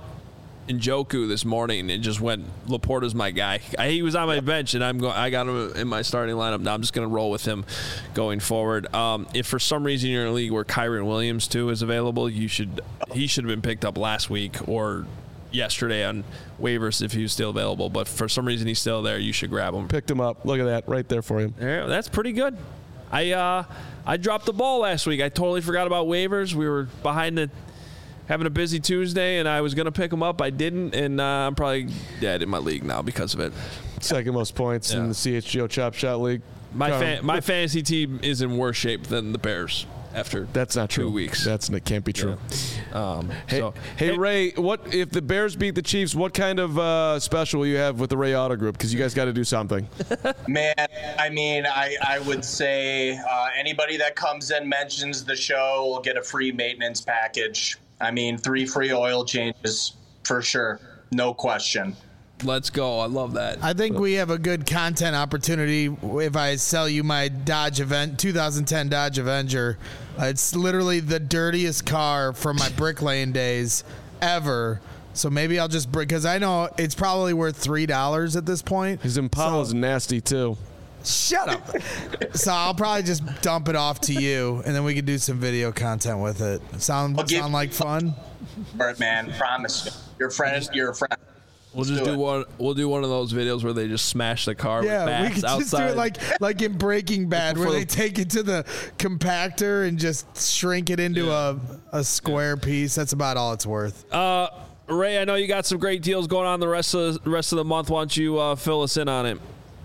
Njoku this morning and just went. Laporta's my guy. I, he was on my bench, and I'm going. I got him in my starting lineup. Now I'm just going to roll with him going forward. Um, if for some reason you're in a league where Kyron Williams too is available, you should. He should have been picked up last week or yesterday on waivers if he was still available. But for some reason he's still there. You should grab him. Picked him up. Look at that right there for him. Yeah, that's pretty good. I uh, I dropped the ball last week. I totally forgot about waivers. We were behind the having a busy Tuesday, and I was going to pick them up. I didn't, and uh, I'm probably dead in my league now because of it. Second most points Yeah. in the C H G O Chop Shot League. My Carm. fa- my fantasy team is in worse shape than the Bears after That's not two true. weeks. That's that can't be true. Um, Hey, so, hey, Ray, what if the Bears beat the Chiefs? What kind of uh, special will you have with the Ray Auto Group? Because you guys got to do something. Man, I mean, I, I would say uh, anybody that comes in, mentions the show, will get a free maintenance package. I mean, three free oil changes for sure. No question. let's go. I love that. I think we have a good content opportunity if I sell you my Dodge Event twenty ten Dodge Avenger. Uh, it's literally the dirtiest car from my Brick Lane days ever. So maybe I'll just bring, because I know it's probably worth three dollars at this point. His Impala's So- nasty too. Shut up. So I'll probably just dump it off to you, and then we can do some video content with it. Sound I'll give- sound like fun? All right, man. Promise me. Your friend. You're a friend. We'll just do do, it. one. We'll do one of those videos where they just smash the car Yeah, with we bats could just outside. do it like like in Breaking Bad, where For they the- take it to the compactor and just shrink it into a a square piece. That's about all it's worth. Uh, Ray, I know you got some great deals going on the rest of the rest of the month. Why don't you uh, fill us in on it?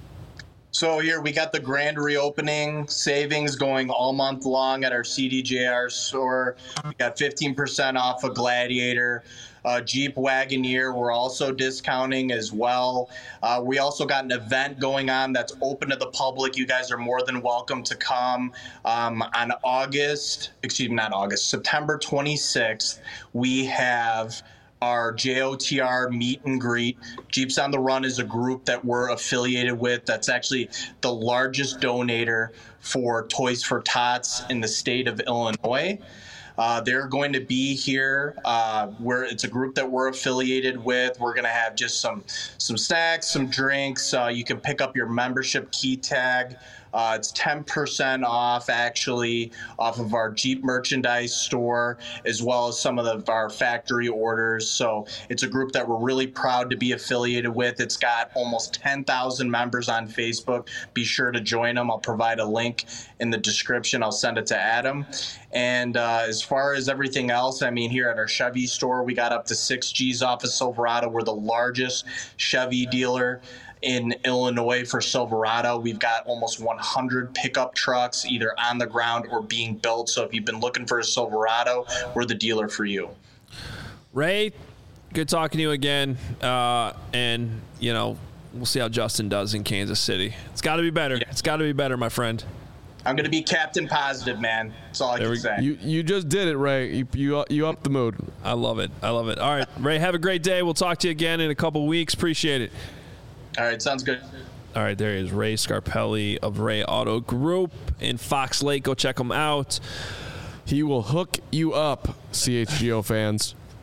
So here we got the grand reopening savings going all month long at our C D J R store. We got fifteen percent off a Gladiator. Uh, Jeep Wagoneer, we're also discounting as well. Uh, we also got an event going on that's open to the public. You guys are more than welcome to come. Um, on August, excuse me, not August, September twenty-sixth, we have our J O T R meet and greet. Jeeps on the Run is a group that we're affiliated with that's actually the largest donator for Toys for Tots in the state of Illinois. Uh, they're going to be here. Uh, where it's a group that we're affiliated with. We're going to have just some some snacks, some drinks. Uh, you can pick up your membership key tag. Uh, it's ten percent off, actually, off of our Jeep merchandise store, as well as some of the, our factory orders. So it's a group that we're really proud to be affiliated with. It's got almost ten thousand members on Facebook. Be sure to join them. I'll provide a link in the description. I'll send it to Adam. And uh, as far as everything else, I mean, here at our Chevy store, we got up to six G's off of Silverado. We're the largest Chevy dealer in Illinois for Silverado. We've got almost one hundred pickup trucks either on the ground or being built. So if you've been looking for a Silverado, we're the dealer for you. Ray, good talking to you again. Uh, and, you know, we'll see how Justin does in Kansas City. It's got to be better. Yeah. It's got to be better, my friend. I'm going to be Captain Positive, man. That's all I There can we- say. You you just did it, Ray. You you you upped the mood. I love it. I love it. All right, Ray, have a great day. We'll talk to you again in a couple weeks. Appreciate it. All right, sounds good. All right, there he is, Ray Scarpelli of Ray Auto Group in Fox Lake. Go check him out. He will hook you up, C H G O fans.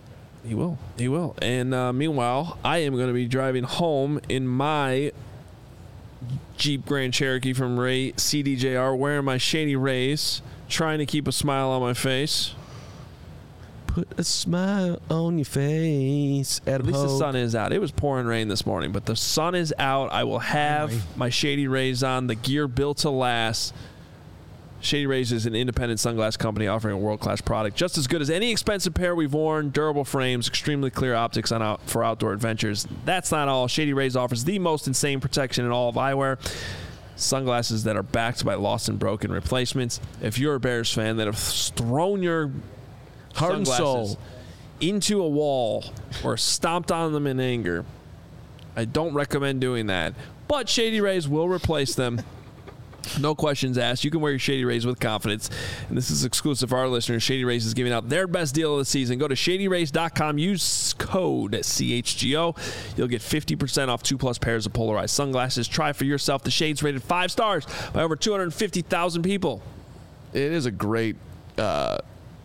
He will. He will. And uh, meanwhile, I am going to be driving home in my Jeep Grand Cherokee from Ray C D J R, wearing my Shady Rays, trying to keep a smile on my face. Put a smile on your face. At, At least the sun is out. It was pouring rain this morning, but the sun is out. I will have Finally. my Shady Rays on, the gear built to last. Shady Rays is an independent sunglass company offering a world-class product just as good as any expensive pair we've worn. Durable frames, extremely clear optics on out for outdoor adventures. That's not all. Shady Rays offers the most insane protection in all of eyewear. Sunglasses that are backed by lost and broken replacements. If you're a Bears fan that have thrown your heart and soul into a wall or stomped on them in anger, I don't recommend doing that. But Shady Rays will replace them. No questions asked. You can wear your Shady Rays with confidence. And this is exclusive for our listeners. Shady Rays is giving out their best deal of the season. Go to shady rays dot com. Use code C H G O. You'll get fifty percent off two plus pairs of polarized sunglasses. Try for yourself. The shades rated five stars by over two hundred fifty thousand people. It is a great uh,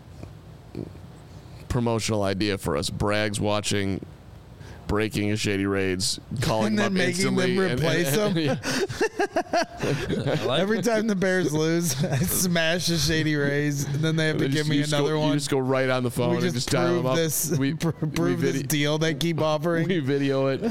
promotional idea for us. Bragg's watching breaking a Shady Rays, calling and them then up making instantly. them replace and, and, them. Yeah. Like Every time the Bears lose, I smash the Shady Rays, and then they have to give just, me another go, one. You just go right on the phone we and just, just dial prove them up. this, we pr- prove we this deal they keep offering. We video it.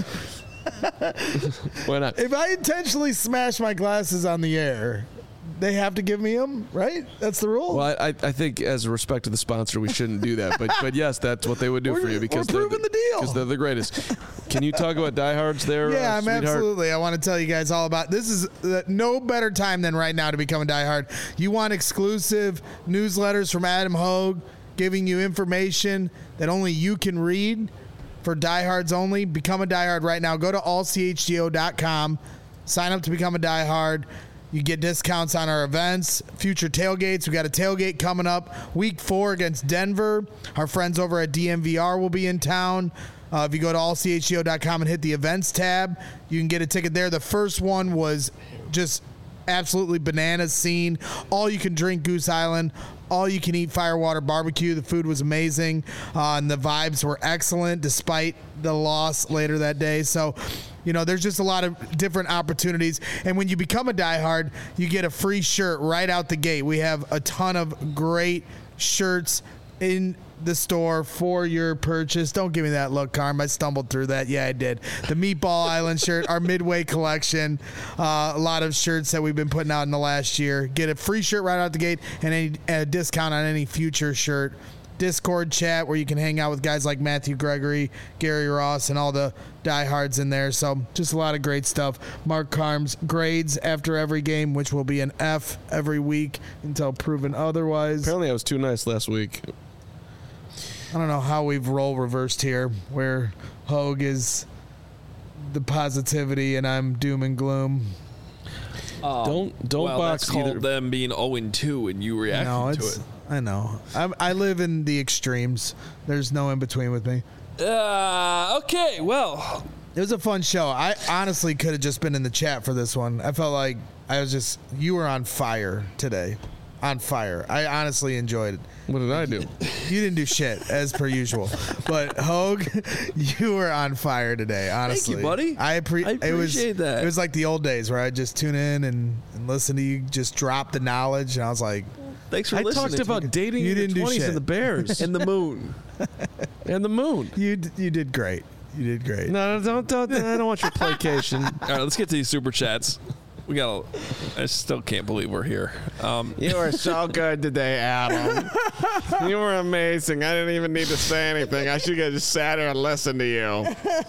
Why not? If I intentionally smash my glasses on the air, they have to give me them, right? That's the rule. Well, I, I think as a respect to the sponsor, we shouldn't do that. But but yes, that's what they would do We're- for you because we're proving they're, the deal. because they're the greatest. Can you talk about diehards there? Yeah, uh, I'm sweetheart? absolutely. I want to tell you guys all about this. Is uh, no better time than right now to become a diehard. You want exclusive newsletters from Adam Hogue, giving you information that only you can read for diehards only. Become a diehard right now. Go to all c h g o dot com. Sign up to become a diehard. You get discounts on our events, future tailgates. We got a tailgate coming up week four against Denver. Our friends over at D M V R will be in town. Uh, if you go to all c h g o dot com and hit the events tab, you can get a ticket there. The first one was just absolutely bananas scene. All you can drink Goose Island. All you can eat Firewater Barbecue. The food was amazing. Uh, and the vibes were excellent despite the loss later that day. So, you know, there's just a lot of different opportunities. And when you become a diehard, you get a free shirt right out the gate. We have a ton of great shirts in the store for your purchase. Don't give me that look, Carm. I stumbled through that. Yeah, I did. The Meatball Island shirt, our Midway collection, uh, a lot of shirts that we've been putting out in the last year. Get a free shirt right out the gate and any, a discount on any future shirt. Discord chat where you can hang out with guys like Matthew Gregory, Gary Ross, and all the diehards in there. So just a lot of great stuff. Mark Carm's grades after every game, which will be an F every week until proven otherwise. Apparently, I was too nice last week. I don't know how we've role reversed here, where Hogue is the positivity and I'm doom and gloom. Um, don't don't well, box that's called either. them being oh and two and you reacting No, to it's, it. I know. I'm, I live in the extremes. There's no in between with me. Uh, okay, well, It was a fun show. I honestly could have just been in the chat for this one. I felt like I was just, you were on fire today. On fire. I honestly enjoyed it. What did I do? You didn't do shit, as per usual. But Hogue, you were on fire today, honestly. Thank you, buddy. I, appre- I it was, appreciate that. It was like the old days where I'd just tune in and, and listen to you just drop the knowledge. And I was like, thanks for I listening. talked about dating You in didn't do your twenties shit. and the Bears and the moon. and the moon. you d- you did great. You did great. No, no, don't, don't. I don't want your placation. All right, let's get to these super chats. We got. I still can't believe we're here. Um, You were so good today, Adam. You were amazing. I didn't even need to say anything. I should have just sat here and listened to you.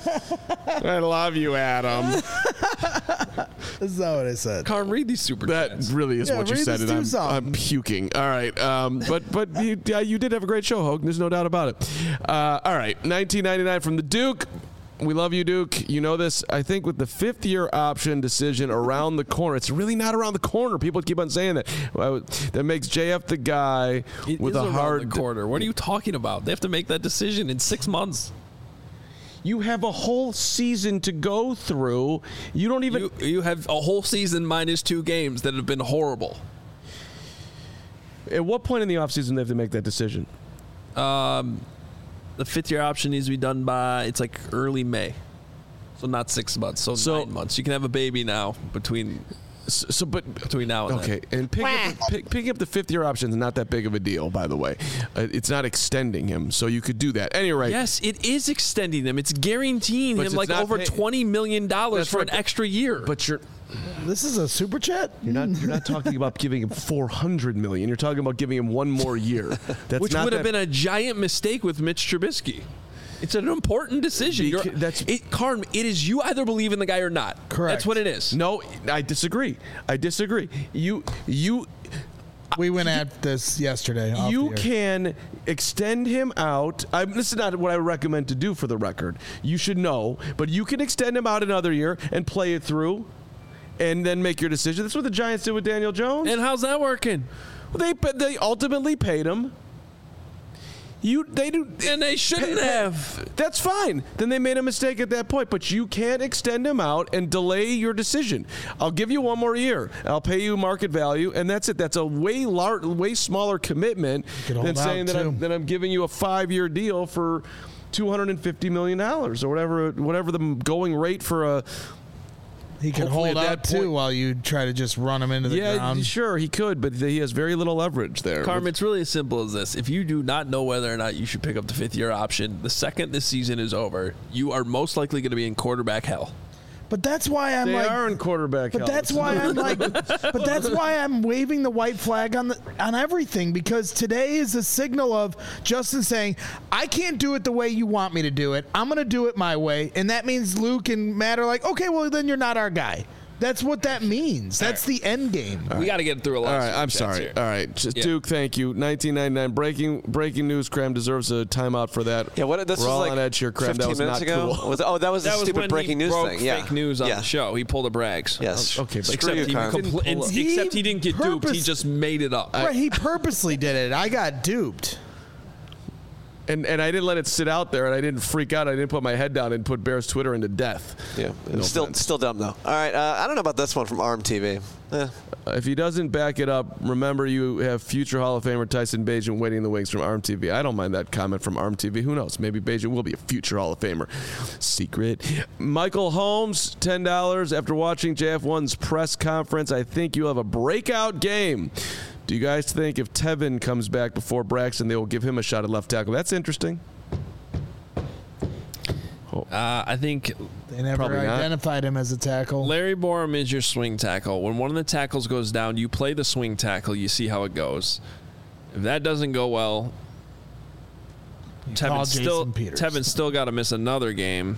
I love you, Adam. That's not what I said. Carm, read these super That chats. really is Yeah, what you read said, this and I'm, to something. I'm puking. All right, um, but but you, yeah, you did have a great show, Hogue. There's no doubt about it. Uh, all right, nineteen ninety-nine from the Duke. We love you, Duke. You know this. I think with the fifth-year option decision around the corner, it's really not around the corner. People keep on saying that. Well, that makes J F the guy It with is a around hard the corner. What are you talking about? They have to make that decision in six months. You have a whole season to go through. You don't even. You, you have a whole season minus two games that have been horrible. At what point in the offseason do they have to make that decision? Um, the fifth year option needs to be done by, it's like early May. So not six months, so, So- nine months. You can have a baby now between So, so but between now and okay, then. and pick up, pick, picking up the fifth year option is not that big of a deal, by the way. Uh, it's not extending him, so you could do that. Anyway, Yes, it is extending them. It's guaranteeing But him it's like not over pay- twenty million dollars That's for right. an extra year. but you're This is a super chat. you're not you're not talking about giving him four hundred million. You're talking about giving him one more year. That's which not would have that- been a giant mistake with Mitch Trubisky. It's an important decision. You're, Beca- that's- it, Carm, it is you either believe in the guy or not. Correct. That's what it is. No, I disagree. I disagree. You you We went at this yesterday. off you the air. can extend him out. I, this is not what I recommend to do for the record. You should know, but you can extend him out another year and play it through, and then make your decision. That's what the Giants did with Daniel Jones. And how's that working? Well, they but they ultimately paid him. You they do And they shouldn't have. That's fine. Then they made a mistake at that point. But you can't extend him out and delay your decision. I'll give you one more year. I'll pay you market value, and that's it. That's a way lar- way smaller commitment could than hold out, saying that I'm, too. that I'm giving you a five-year deal for two hundred fifty million dollars or whatever whatever the going rate for a. He could hopefully hold at out that too point- while you try to just run him into the Yeah, ground. sure, he could, but he has very little leverage there. Carm, it's really as simple as this. If you do not know whether or not you should pick up the fifth year option, the second this season is over, you are most likely going to be in quarterback hell. But that's why I'm They like. are in quarterback But hell. that's why I'm like. But that's why I'm waving the white flag on the on everything, because today is a signal of Justin saying, "I can't do it the way you want me to do it. I'm going to do it my way," and that means Luke and Matt are like, "Okay, well then you're not our guy." That's what that means. That's the end game. We got to get through a lot All of right, super I'm chats sorry. here. All right, just Yeah. Duke, thank you. nineteen ninety-nine breaking breaking news. Cram deserves a timeout for that. Yeah, what this We're was all like on edge here. Cram, that fifteen was minutes not ago. cool. Was, oh, that was That the was stupid when breaking he news broke thing. Yeah, fake news on yeah. the show. He pulled a Brags. Yes. Okay, but Screw Except you, he, Carm. compl- and- He except he didn't get duped. He purpose- just made it up. Right, he purposely did it. I got duped. And and I didn't let it sit out there, and I didn't freak out. I didn't put my head down and put Bears Twitter into death. Yeah, No still offense. still dumb though. All right, uh, I don't know about this one from Arm T V. Eh. If he doesn't back it up, remember you have future Hall of Famer Tyson Bagent waiting in the wings from Arm T V. I don't mind that comment from Arm T V. Who knows? Maybe Bagent will be a future Hall of Famer. Secret. Michael Holmes, ten dollars. After watching J F one's press conference, I think you'll have a breakout game. Do you guys think if Tevin comes back before Braxton, they will give him a shot at left tackle? That's interesting. Uh, I think They never Probably not. identified him as a tackle. Larry Borum is your swing tackle. When one of the tackles goes down, you play the swing tackle. You see how it goes. If that doesn't go well, call Tevin still Jason Peters. Tevin still got to miss another game.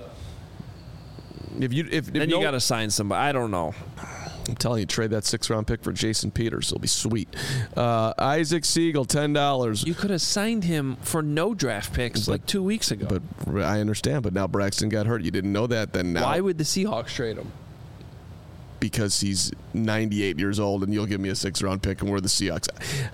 If you if, if Then no, you got to sign somebody. I don't know. I'm telling you, trade that six round pick for Jason Peters. It'll be sweet. Uh, Isaac Siegel, ten dollars. You could have signed him for no draft picks like two weeks ago. But I understand. But now Braxton got hurt. You didn't know that then. Now Why would the Seahawks trade him? because he's ninety-eight years old, and you'll give me a six round pick, and we're the Seahawks.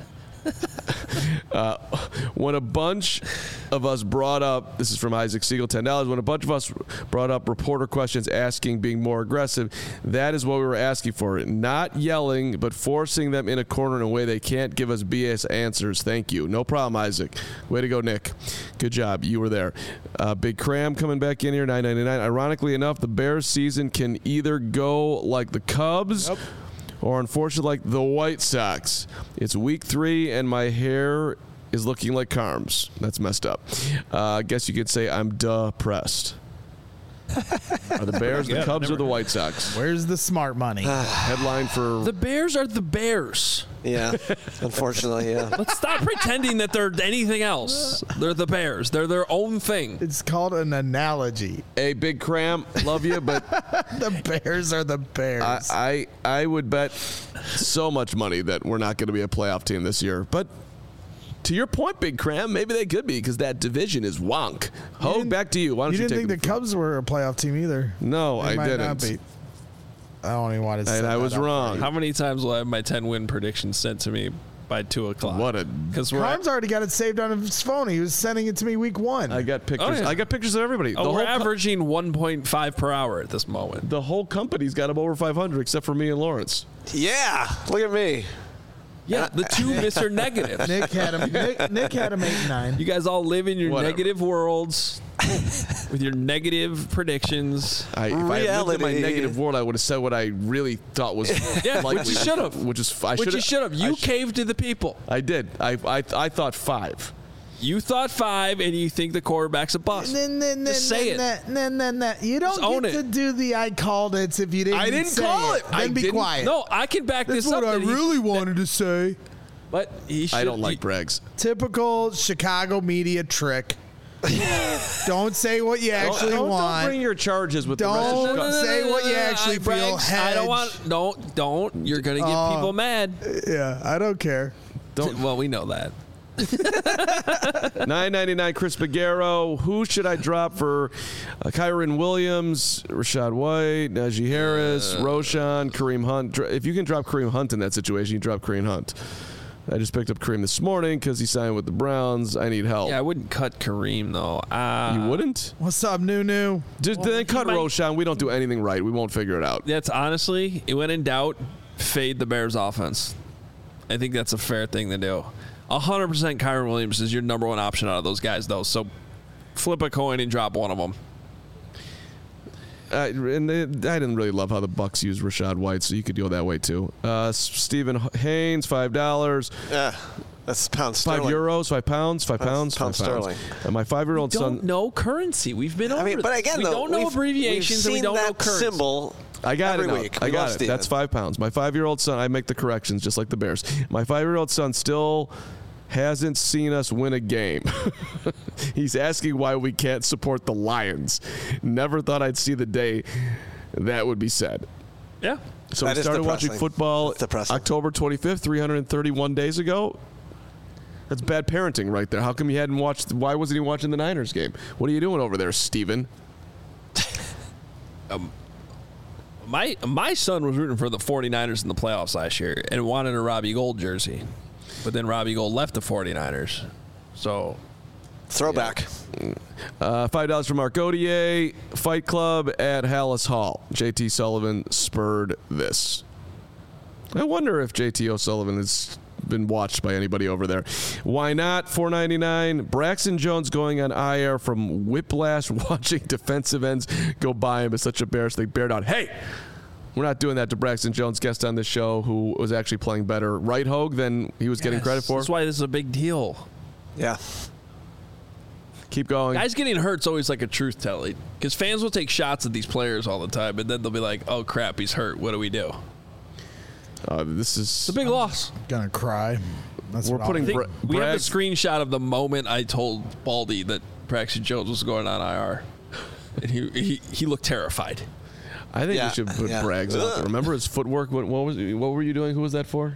uh, when a bunch of us brought up, this is from Isaac Siegel, ten dollars. When a bunch of us brought up reporter questions asking being more aggressive, that is what we were asking for. Not yelling, but forcing them in a corner in a way they can't give us B S answers. Thank you. No problem, Isaac. Way to go, Nick. Good job. You were there. Uh, Big Cram coming back in here, nine ninety-nine. Ironically enough, the Bears season can either go like the Cubs, yep, or unfortunately like the White Sox. It's week three, and my hair is looking like Carm's. That's messed up. Uh, I guess you could say I'm depressed. Are the Bears, the Yeah, Cubs, never- or the White Sox? Where's the smart money? Headline for The Bears are the Bears. Yeah, unfortunately, yeah. Let's stop pretending that they're anything else. They're the Bears. They're their own thing. It's called an analogy. a Big Cram. Love you, but The Bears are the Bears. I, I I would bet so much money that we're not going to be a playoff team this year. But to your point, Big Cram, maybe they could be because that division is wonk. Hogue, didn't- back to you. Why don't you you, didn't take think the it from- Cubs were a playoff team either. No, They I might didn't. not be. I don't even want to say And I that was up. wrong. How many times will I have my ten win prediction sent to me by two o'clock? What a Because we're Carm's already got it saved on his phone. He was sending it to me week one. I got pictures. Oh, yeah. I got pictures of everybody. oh, the, we're whole co- averaging one point five per hour at this moment. the whole company's got them over five hundred, except for me and Lawrence. Yeah, look at me. Yeah, the two Mister Negative. Nick had him. Nick, Nick had him eight and nine. You guys all live in your Whatever. negative worlds with your negative predictions. I, if I lived in my Reality. negative world, I would have said what I really thought was Yeah, likely. which you should have. Which is I Which you should've- should have. I You sh- caved to the people. I did. I, I I thought five. You thought five, and you think the quarterback's a bust. Then, then, Just say it. Then, then, then, then. You don't Just own get it. to do the I called it if you didn't I didn't say call it. Then I be didn't- quiet. No, I can back That's this what up. I that he- really wanted to say. But he should. I don't like he- Bragg's. Typical Chicago media trick. Don't say what you actually don't, want. Don't bring your charges with Don't the rest of No, no, Chicago. no, no, say no, what no, you no, no, actually I- feel. Brags, I don't Hedge. want. Don't. Don't. You're gonna get Oh. people mad. Yeah, I don't care. Don't. Well, we know that. nine ninety-nine Chris Bagaro. Who should I drop for uh, Kyron Williams, Rashad White, Najee Harris, Roshan, Kareem Hunt? Dr- If you can drop Kareem Hunt in that situation, you drop Kareem Hunt. I just picked up Kareem this morning because he signed with the Browns. I need help. Yeah, I wouldn't cut Kareem though. Uh, You wouldn't? What's up, Nunu? Just Well, then he cut might- Roshan. We don't do anything right. We won't figure it out. That's honestly, when in doubt, fade the Bears offense. I think that's a fair thing to do. one hundred percent Kyron Williams is your number one option out of those guys, though. So flip a coin and drop one of them. Uh, and they, I didn't really love how the Bucks used Rashad White, so you could go that way too. Uh, S- Stephen Haynes, five dollars. Yeah, that's pounds Five sterling. euros, five pounds, five pounds, Pounds five pounds. sterling. And my five-year-old Don't son. know currency. We've been over I mean, but again, we though, don't know we've- abbreviations we've and we seen don't know that currency. symbol. I got every it. now. week. I We got love it. Steven. That's five pounds. My five-year-old son. I make the corrections just like the Bears. My five-year-old son still hasn't seen us win a game. He's asking why we can't support the Lions. Never thought I'd see the day that would be said. Yeah. So That we is started watching depressing. football That's depressing. October twenty-fifth, three hundred thirty-one days ago. That's bad parenting right there. How come you hadn't watched? Why wasn't he watching the Niners game? What are you doing over there, Steven? My my son was rooting for the 49ers in the playoffs last year and wanted a Robbie Gold jersey. But then Robbie Gold left the 49ers. So Throwback. Uh, Five dollars from Mark Gaudier. Fight Club at Hallis Hall. J T Sullivan spurred this. I wonder if J T O'Sullivan has been watched by anybody over there. Why not? four ninety-nine. Braxton Jones going on I R from whiplash watching defensive ends go by him is such a Bears thing. Bear down. Hey, we're not doing that to Braxton Jones, guest on this show, who was actually playing better right hogue than he was getting yes, credit for. That's why this is a big deal. Yeah. Keep going. Guys getting hurt's always like a truth telling because fans will take shots at these players all the time, and then they'll be like, "Oh crap, he's hurt. What do we do?" Uh, this is It's a big loss. Gonna cry. That's We're what I'll putting do. I think Bra- we have Bragg- the screenshot of the moment I told Baldy that Braxton Jones was going on I R, and he he, he looked terrified. I think Yeah, we should put yeah. Braggs out there. Ugh. Remember his footwork? What, what was? What were you doing? Who was that for?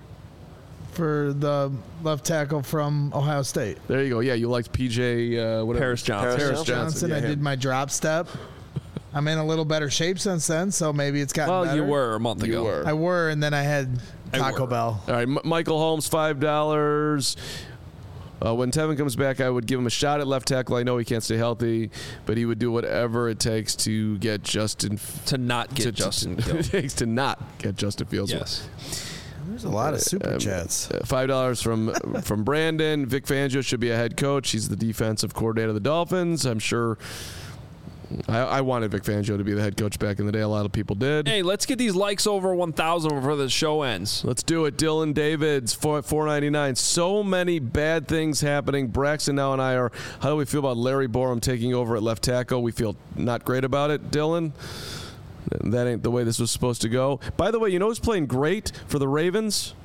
for the left tackle from Ohio State. There you go. Yeah, you liked P J. Uh, whatever. Paris Johnson. Paris Paris Johnson. Johnson. Johnson. yeah, I him. did my drop step. I'm in a little better shape since then, so maybe it's gotten Well, better. you were a month ago. You were. I were, and then I had I Taco were. Bell. All right, M- Michael Holmes, five dollars. Uh, when Tevin comes back, I would give him a shot at left tackle. I know he can't stay healthy, but he would do whatever it takes to get Justin. To not get to, Justin to, killed. it takes to not get Justin Fields. Yes. There's a lot of super chats. Uh, Five dollars from from Brandon. Vic Fangio should be a head coach. He's the defensive coordinator of the Dolphins. I'm sure. I, I wanted Vic Fangio to be the head coach back in the day. A lot of people did. Hey, let's get these likes over one thousand before the show ends. Let's do it. Dylan Davids, four ninety-nine. So many bad things happening. Braxton now and I are. How do we feel about Larry Borum taking over at left tackle? We feel not great about it, Dylan. That ain't the way this was supposed to go. By the way, you know who's playing great for the Ravens?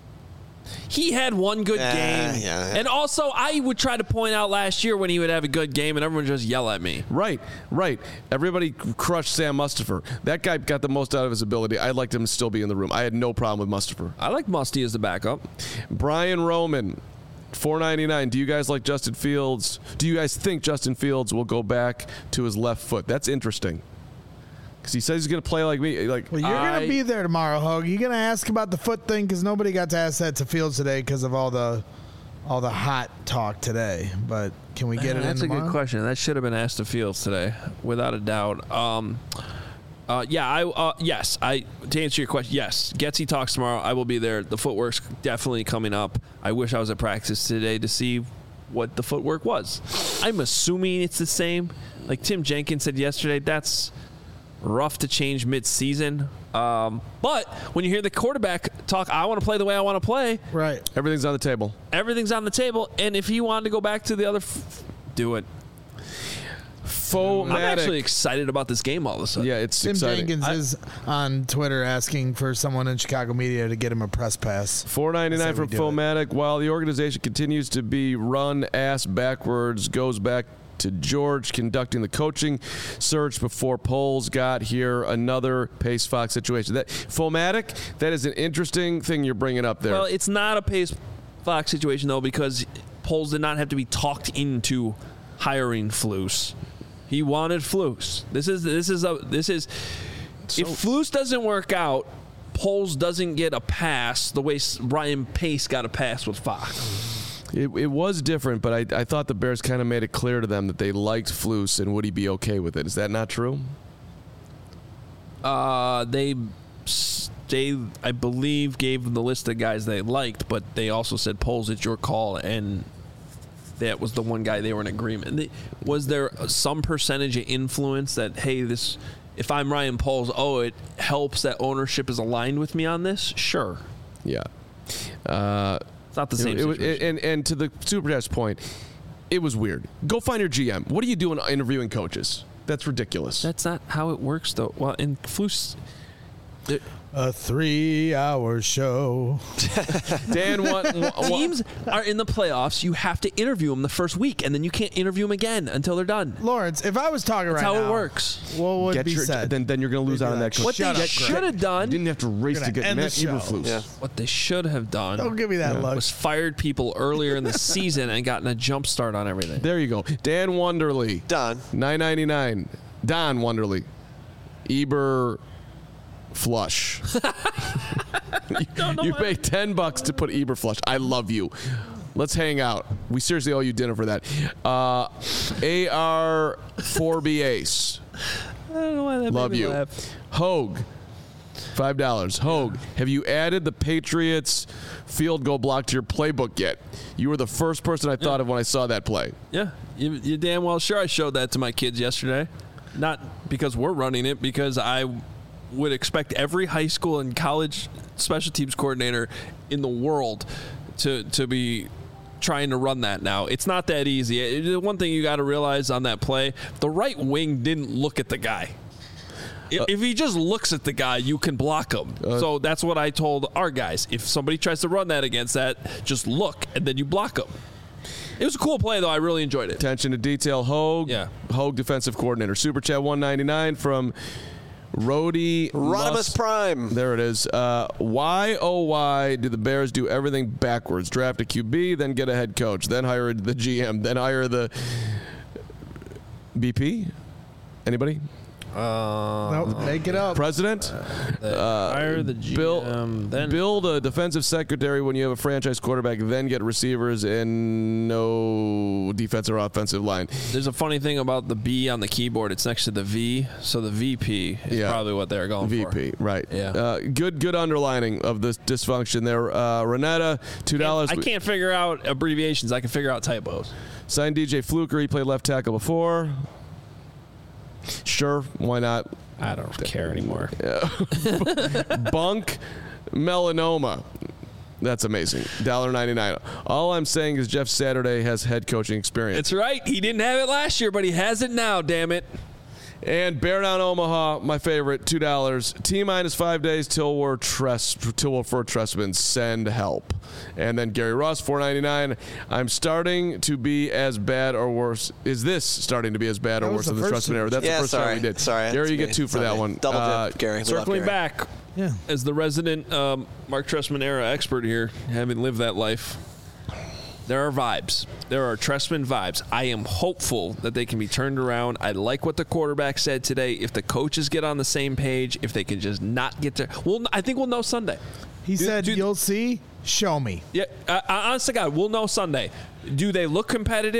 He had one good Yeah, game. yeah, yeah. And also, I would try to point out last year when he would have a good game and everyone would just yell at me. Right, right. Everybody crushed Sam Mustipher. That guy got the most out of his ability. I'd like him to still be in the room. I had no problem with Mustipher. I like Musty as the backup. Brian Roman, four ninety-nine. Do you guys like Justin Fields? Do you guys think Justin Fields will go back to his left foot? That's interesting. Because he says he's going to play like me. Like Well, you're I- going to be there tomorrow, Hogue. You're going to ask about the foot thing because nobody got to ask that to Fields today because of all the all the hot talk today. But can we get it in That's a tomorrow? good question. That should have been asked to Fields today, without a doubt. Um, Uh, yeah, I uh, yes, I to answer your question, yes. Getsy talks tomorrow. I will be there. The footwork's definitely coming up. I wish I was at practice today to see what the footwork was. I'm assuming it's the same. Like Tim Jenkins said yesterday, that's rough to change mid-season. Um, but when you hear the quarterback talk, I want to play the way I want to play. Right. Everything's on the table. Everything's on the table. And if he wanted to go back to the other, f- do it. Fomatic. I'm actually excited about this game all of a sudden. Yeah, it's Tim exciting. Jenkins I, is on Twitter asking for someone in Chicago media to get him a press pass. four ninety-nine from That's how we do Fomatic. While the organization continues to be run ass backwards, goes back to George conducting the coaching search before Poles got here. Another Pace Fox situation. That Fomatic, that is an interesting thing you're bringing up there. Well, it's not a Pace Fox situation, though, because Poles did not have to be talked into hiring Flus. He wanted Flus. This is this is a this is so, if Flus doesn't work out, Poles doesn't get a pass the way Ryan Pace got a pass with Fox. It, it was different, but I, I thought the Bears kind of made it clear to them that they liked Flus and would he be okay with it. Is that not true? Uh, they they I believe gave the list of guys they liked, but they also said Poles, it's your call, and that was the one guy they were in agreement. Was there some percentage of influence that, hey, this, if I'm Ryan Poles, oh, it helps that ownership is aligned with me on this? Sure. Yeah. Uh, it's not the same it, situation. It, and, and to the Super Chat's point, it was weird. Go find your G M. What are you doing interviewing coaches? That's ridiculous. That's not how it works, though. Well, in Flus... A three-hour show. Dan, what, what teams are in the playoffs? You have to interview them the first week, and then you can't interview them again until they're done. Lawrence, if I was talking That's right how now, it works. what would Get be your, said? Then, then you're going to lose out on that. like, What Shut they up, should have done. You didn't have to race We're to gonna get end the Matt show. Eberflus. Yeah. What they should have done. Don't give me that look. Was fired people earlier in the season and gotten a jump start on everything. There you go. Dan Wonderly. Don. nine ninety-nine. Don Wonderly. Eber Flush. you you pay ten bucks to put Eber Flush. I love you. Let's hang out. We seriously owe you dinner for that. Uh, A R four B Ace. I don't know why that Love made me you. laugh. Hogue. Five dollars. Hogue, have you added the Patriots field goal block to your playbook yet? You were the first person I thought Yeah. of when I saw that play. Yeah, you, you're damn well sure I showed that to my kids yesterday. Not because we're running it, because I would expect every high school and college special teams coordinator in the world to to be trying to run that now. It's not that easy. It, one thing you got to realize on that play, the right wing didn't look at the guy. If, uh, if he just looks at the guy, you can block him. Uh, so that's what I told our guys. If somebody tries to run that against that, just look, and then you block them. It was a cool play, though. I really enjoyed it. Attention to detail. Hogue. Yeah. Hogue, defensive coordinator. Super Chat one ninety-nine from Rody Rodimus Mus- Prime. There it is. Uh, why, oh, why do the Bears do everything backwards? Draft a Q B, then get a head coach, then hire the G M, then hire the B P? Anybody? Uh, nope, make it up. President? Uh, hire the G M, build, then build a defensive secretary when you have a franchise quarterback, then get receivers and no defensive or offensive line. There's a funny thing about the B on the keyboard. It's next to the V, so the V P is Yeah. probably what they're going V P, for. right. Yeah. Uh, good good underlining of this dysfunction there. Uh, Renetta, two dollars. I can't figure out abbreviations. I can figure out typos. Signed D J Fluker. He played left tackle before. Sure, why not? I don't care anymore. Bunk melanoma. That's amazing. one dollar ninety-nine. All I'm saying is Jeff Saturday has head coaching experience. That's right. He didn't have it last year, but he has it now, damn it. And Bear Down Omaha, my favorite, two dollars. T minus five days till we're Tress, till we're for Tressman. Send help. And then Gary Ross, four ninety-nine. I'm starting to be as bad or worse. Is this starting to be as bad or That worse was than the the first Tressman era? That's Yeah, the first sorry. time we did. Sorry, Gary, you that's get me. two for Sorry. that one. Double dip, Uh, Gary. We love Circling Gary. back, Yeah. as the resident um, Mark Trestman era expert here, having lived that life, there are vibes. There are Trestman vibes. I am hopeful that they can be turned around. I like what the quarterback said today. If the coaches get on the same page, if they can just not get there, well, I think we'll know Sunday. He Do- said, do- "You'll see. Show me." Yeah, I, I, honest to God, we'll know Sunday. Do they look competitive?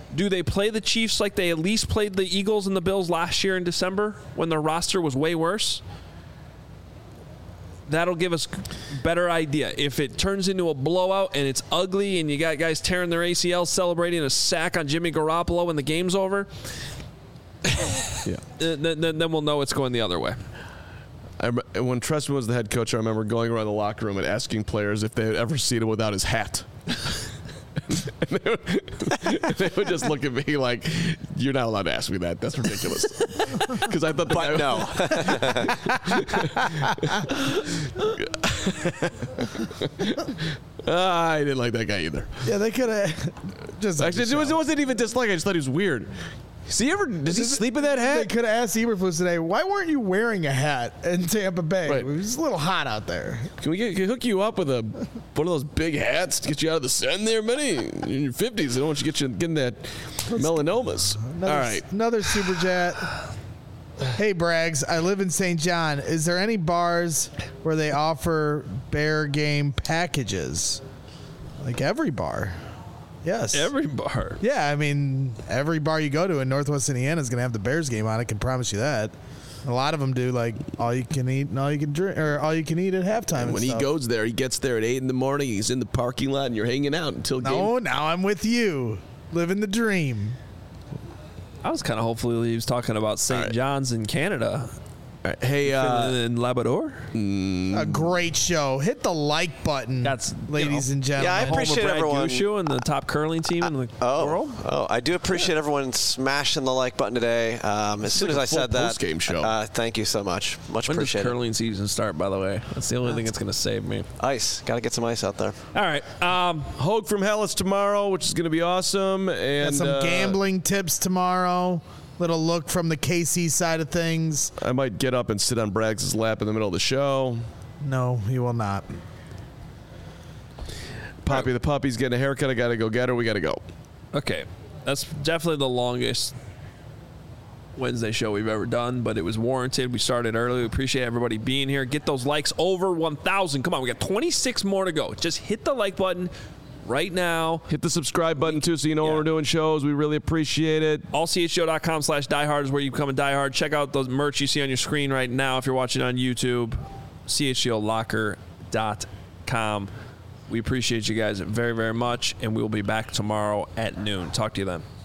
Do they play the Chiefs like they at least played the Eagles and the Bills last year in December when their roster was way worse? That'll give us a better idea. If it turns into a blowout and it's ugly and you got guys tearing their A C Ls celebrating a sack on Jimmy Garoppolo when the game's over, yeah. then, then, then we'll know it's going the other way. I, when Trestman was the head coach, I remember going around the locker room and asking players if they had ever seen him without his hat. And they, would, they would just look at me like, "You're not allowed to ask me that. That's ridiculous." Because I thought, the but no. uh, I didn't like that guy either. Yeah, they could have just actually. It, was, it wasn't even dislike. I just thought he was weird. Does he ever? Does he sleep in that hat? They could have asked Eberflus today, why weren't you wearing a hat in Tampa Bay? Right. It was a little hot out there. Can we get, can we hook you up with a one of those big hats to get you out of the sun there, buddy? In your fifties, I don't want you to get you getting that melanomas. Another, All right. Another super chat. Hey, Braggs, I live in Saint John. Is there any bars where they offer Bear game packages? Like every bar. Yes. Every bar. Yeah, I mean, every bar you go to in Northwest Indiana is going to have the Bears game on. I can promise you that. A lot of them do, like, all you can eat and all you can drink, or all you can eat at halftime. And when stuff. he goes there, he gets there at eight in the morning. He's in the parking lot, and you're hanging out until game. No, now I'm with you, living the dream. I was kind of hopeful he was talking about Saint right. John's in Canada. All right. Hey, uh, in Labrador. A great show. Hit the like button. That's ladies you know, and gentlemen. Yeah, I appreciate Brad everyone. Gushu and the top curling team in the Oh, world. oh, I do appreciate everyone smashing the like button today. Um, as soon like as a I said full that, post-game show. Uh, thank you so much. Much When does appreciated. curling season start, by the way? That's the only thing that's going to save me. Ice. Got to get some ice out there. All right. Um, Hogue from Hellas tomorrow, which is going to be awesome. And Got some uh, gambling tips tomorrow. Little look from the K C side of things. I might get up and sit on Braggs' lap in the middle of the show. No, you will not. Poppy the puppy's getting a haircut. I got to go get her. We got to go. okay. That's definitely the longest Wednesday show we've ever done, but it was warranted. We started early. We appreciate everybody being here. Get those likes over one thousand. Come on, we got twenty-six more to go. Just hit the like button right now. Hit the subscribe button, too, so you know Yeah. when we're doing shows. We really appreciate it. all c h show dot com slash diehard is where you become a diehard. Check out the merch you see on your screen right now if you're watching on YouTube. c h g o locker dot com. We appreciate you guys very, very much, and we'll be back tomorrow at noon. Talk to you then.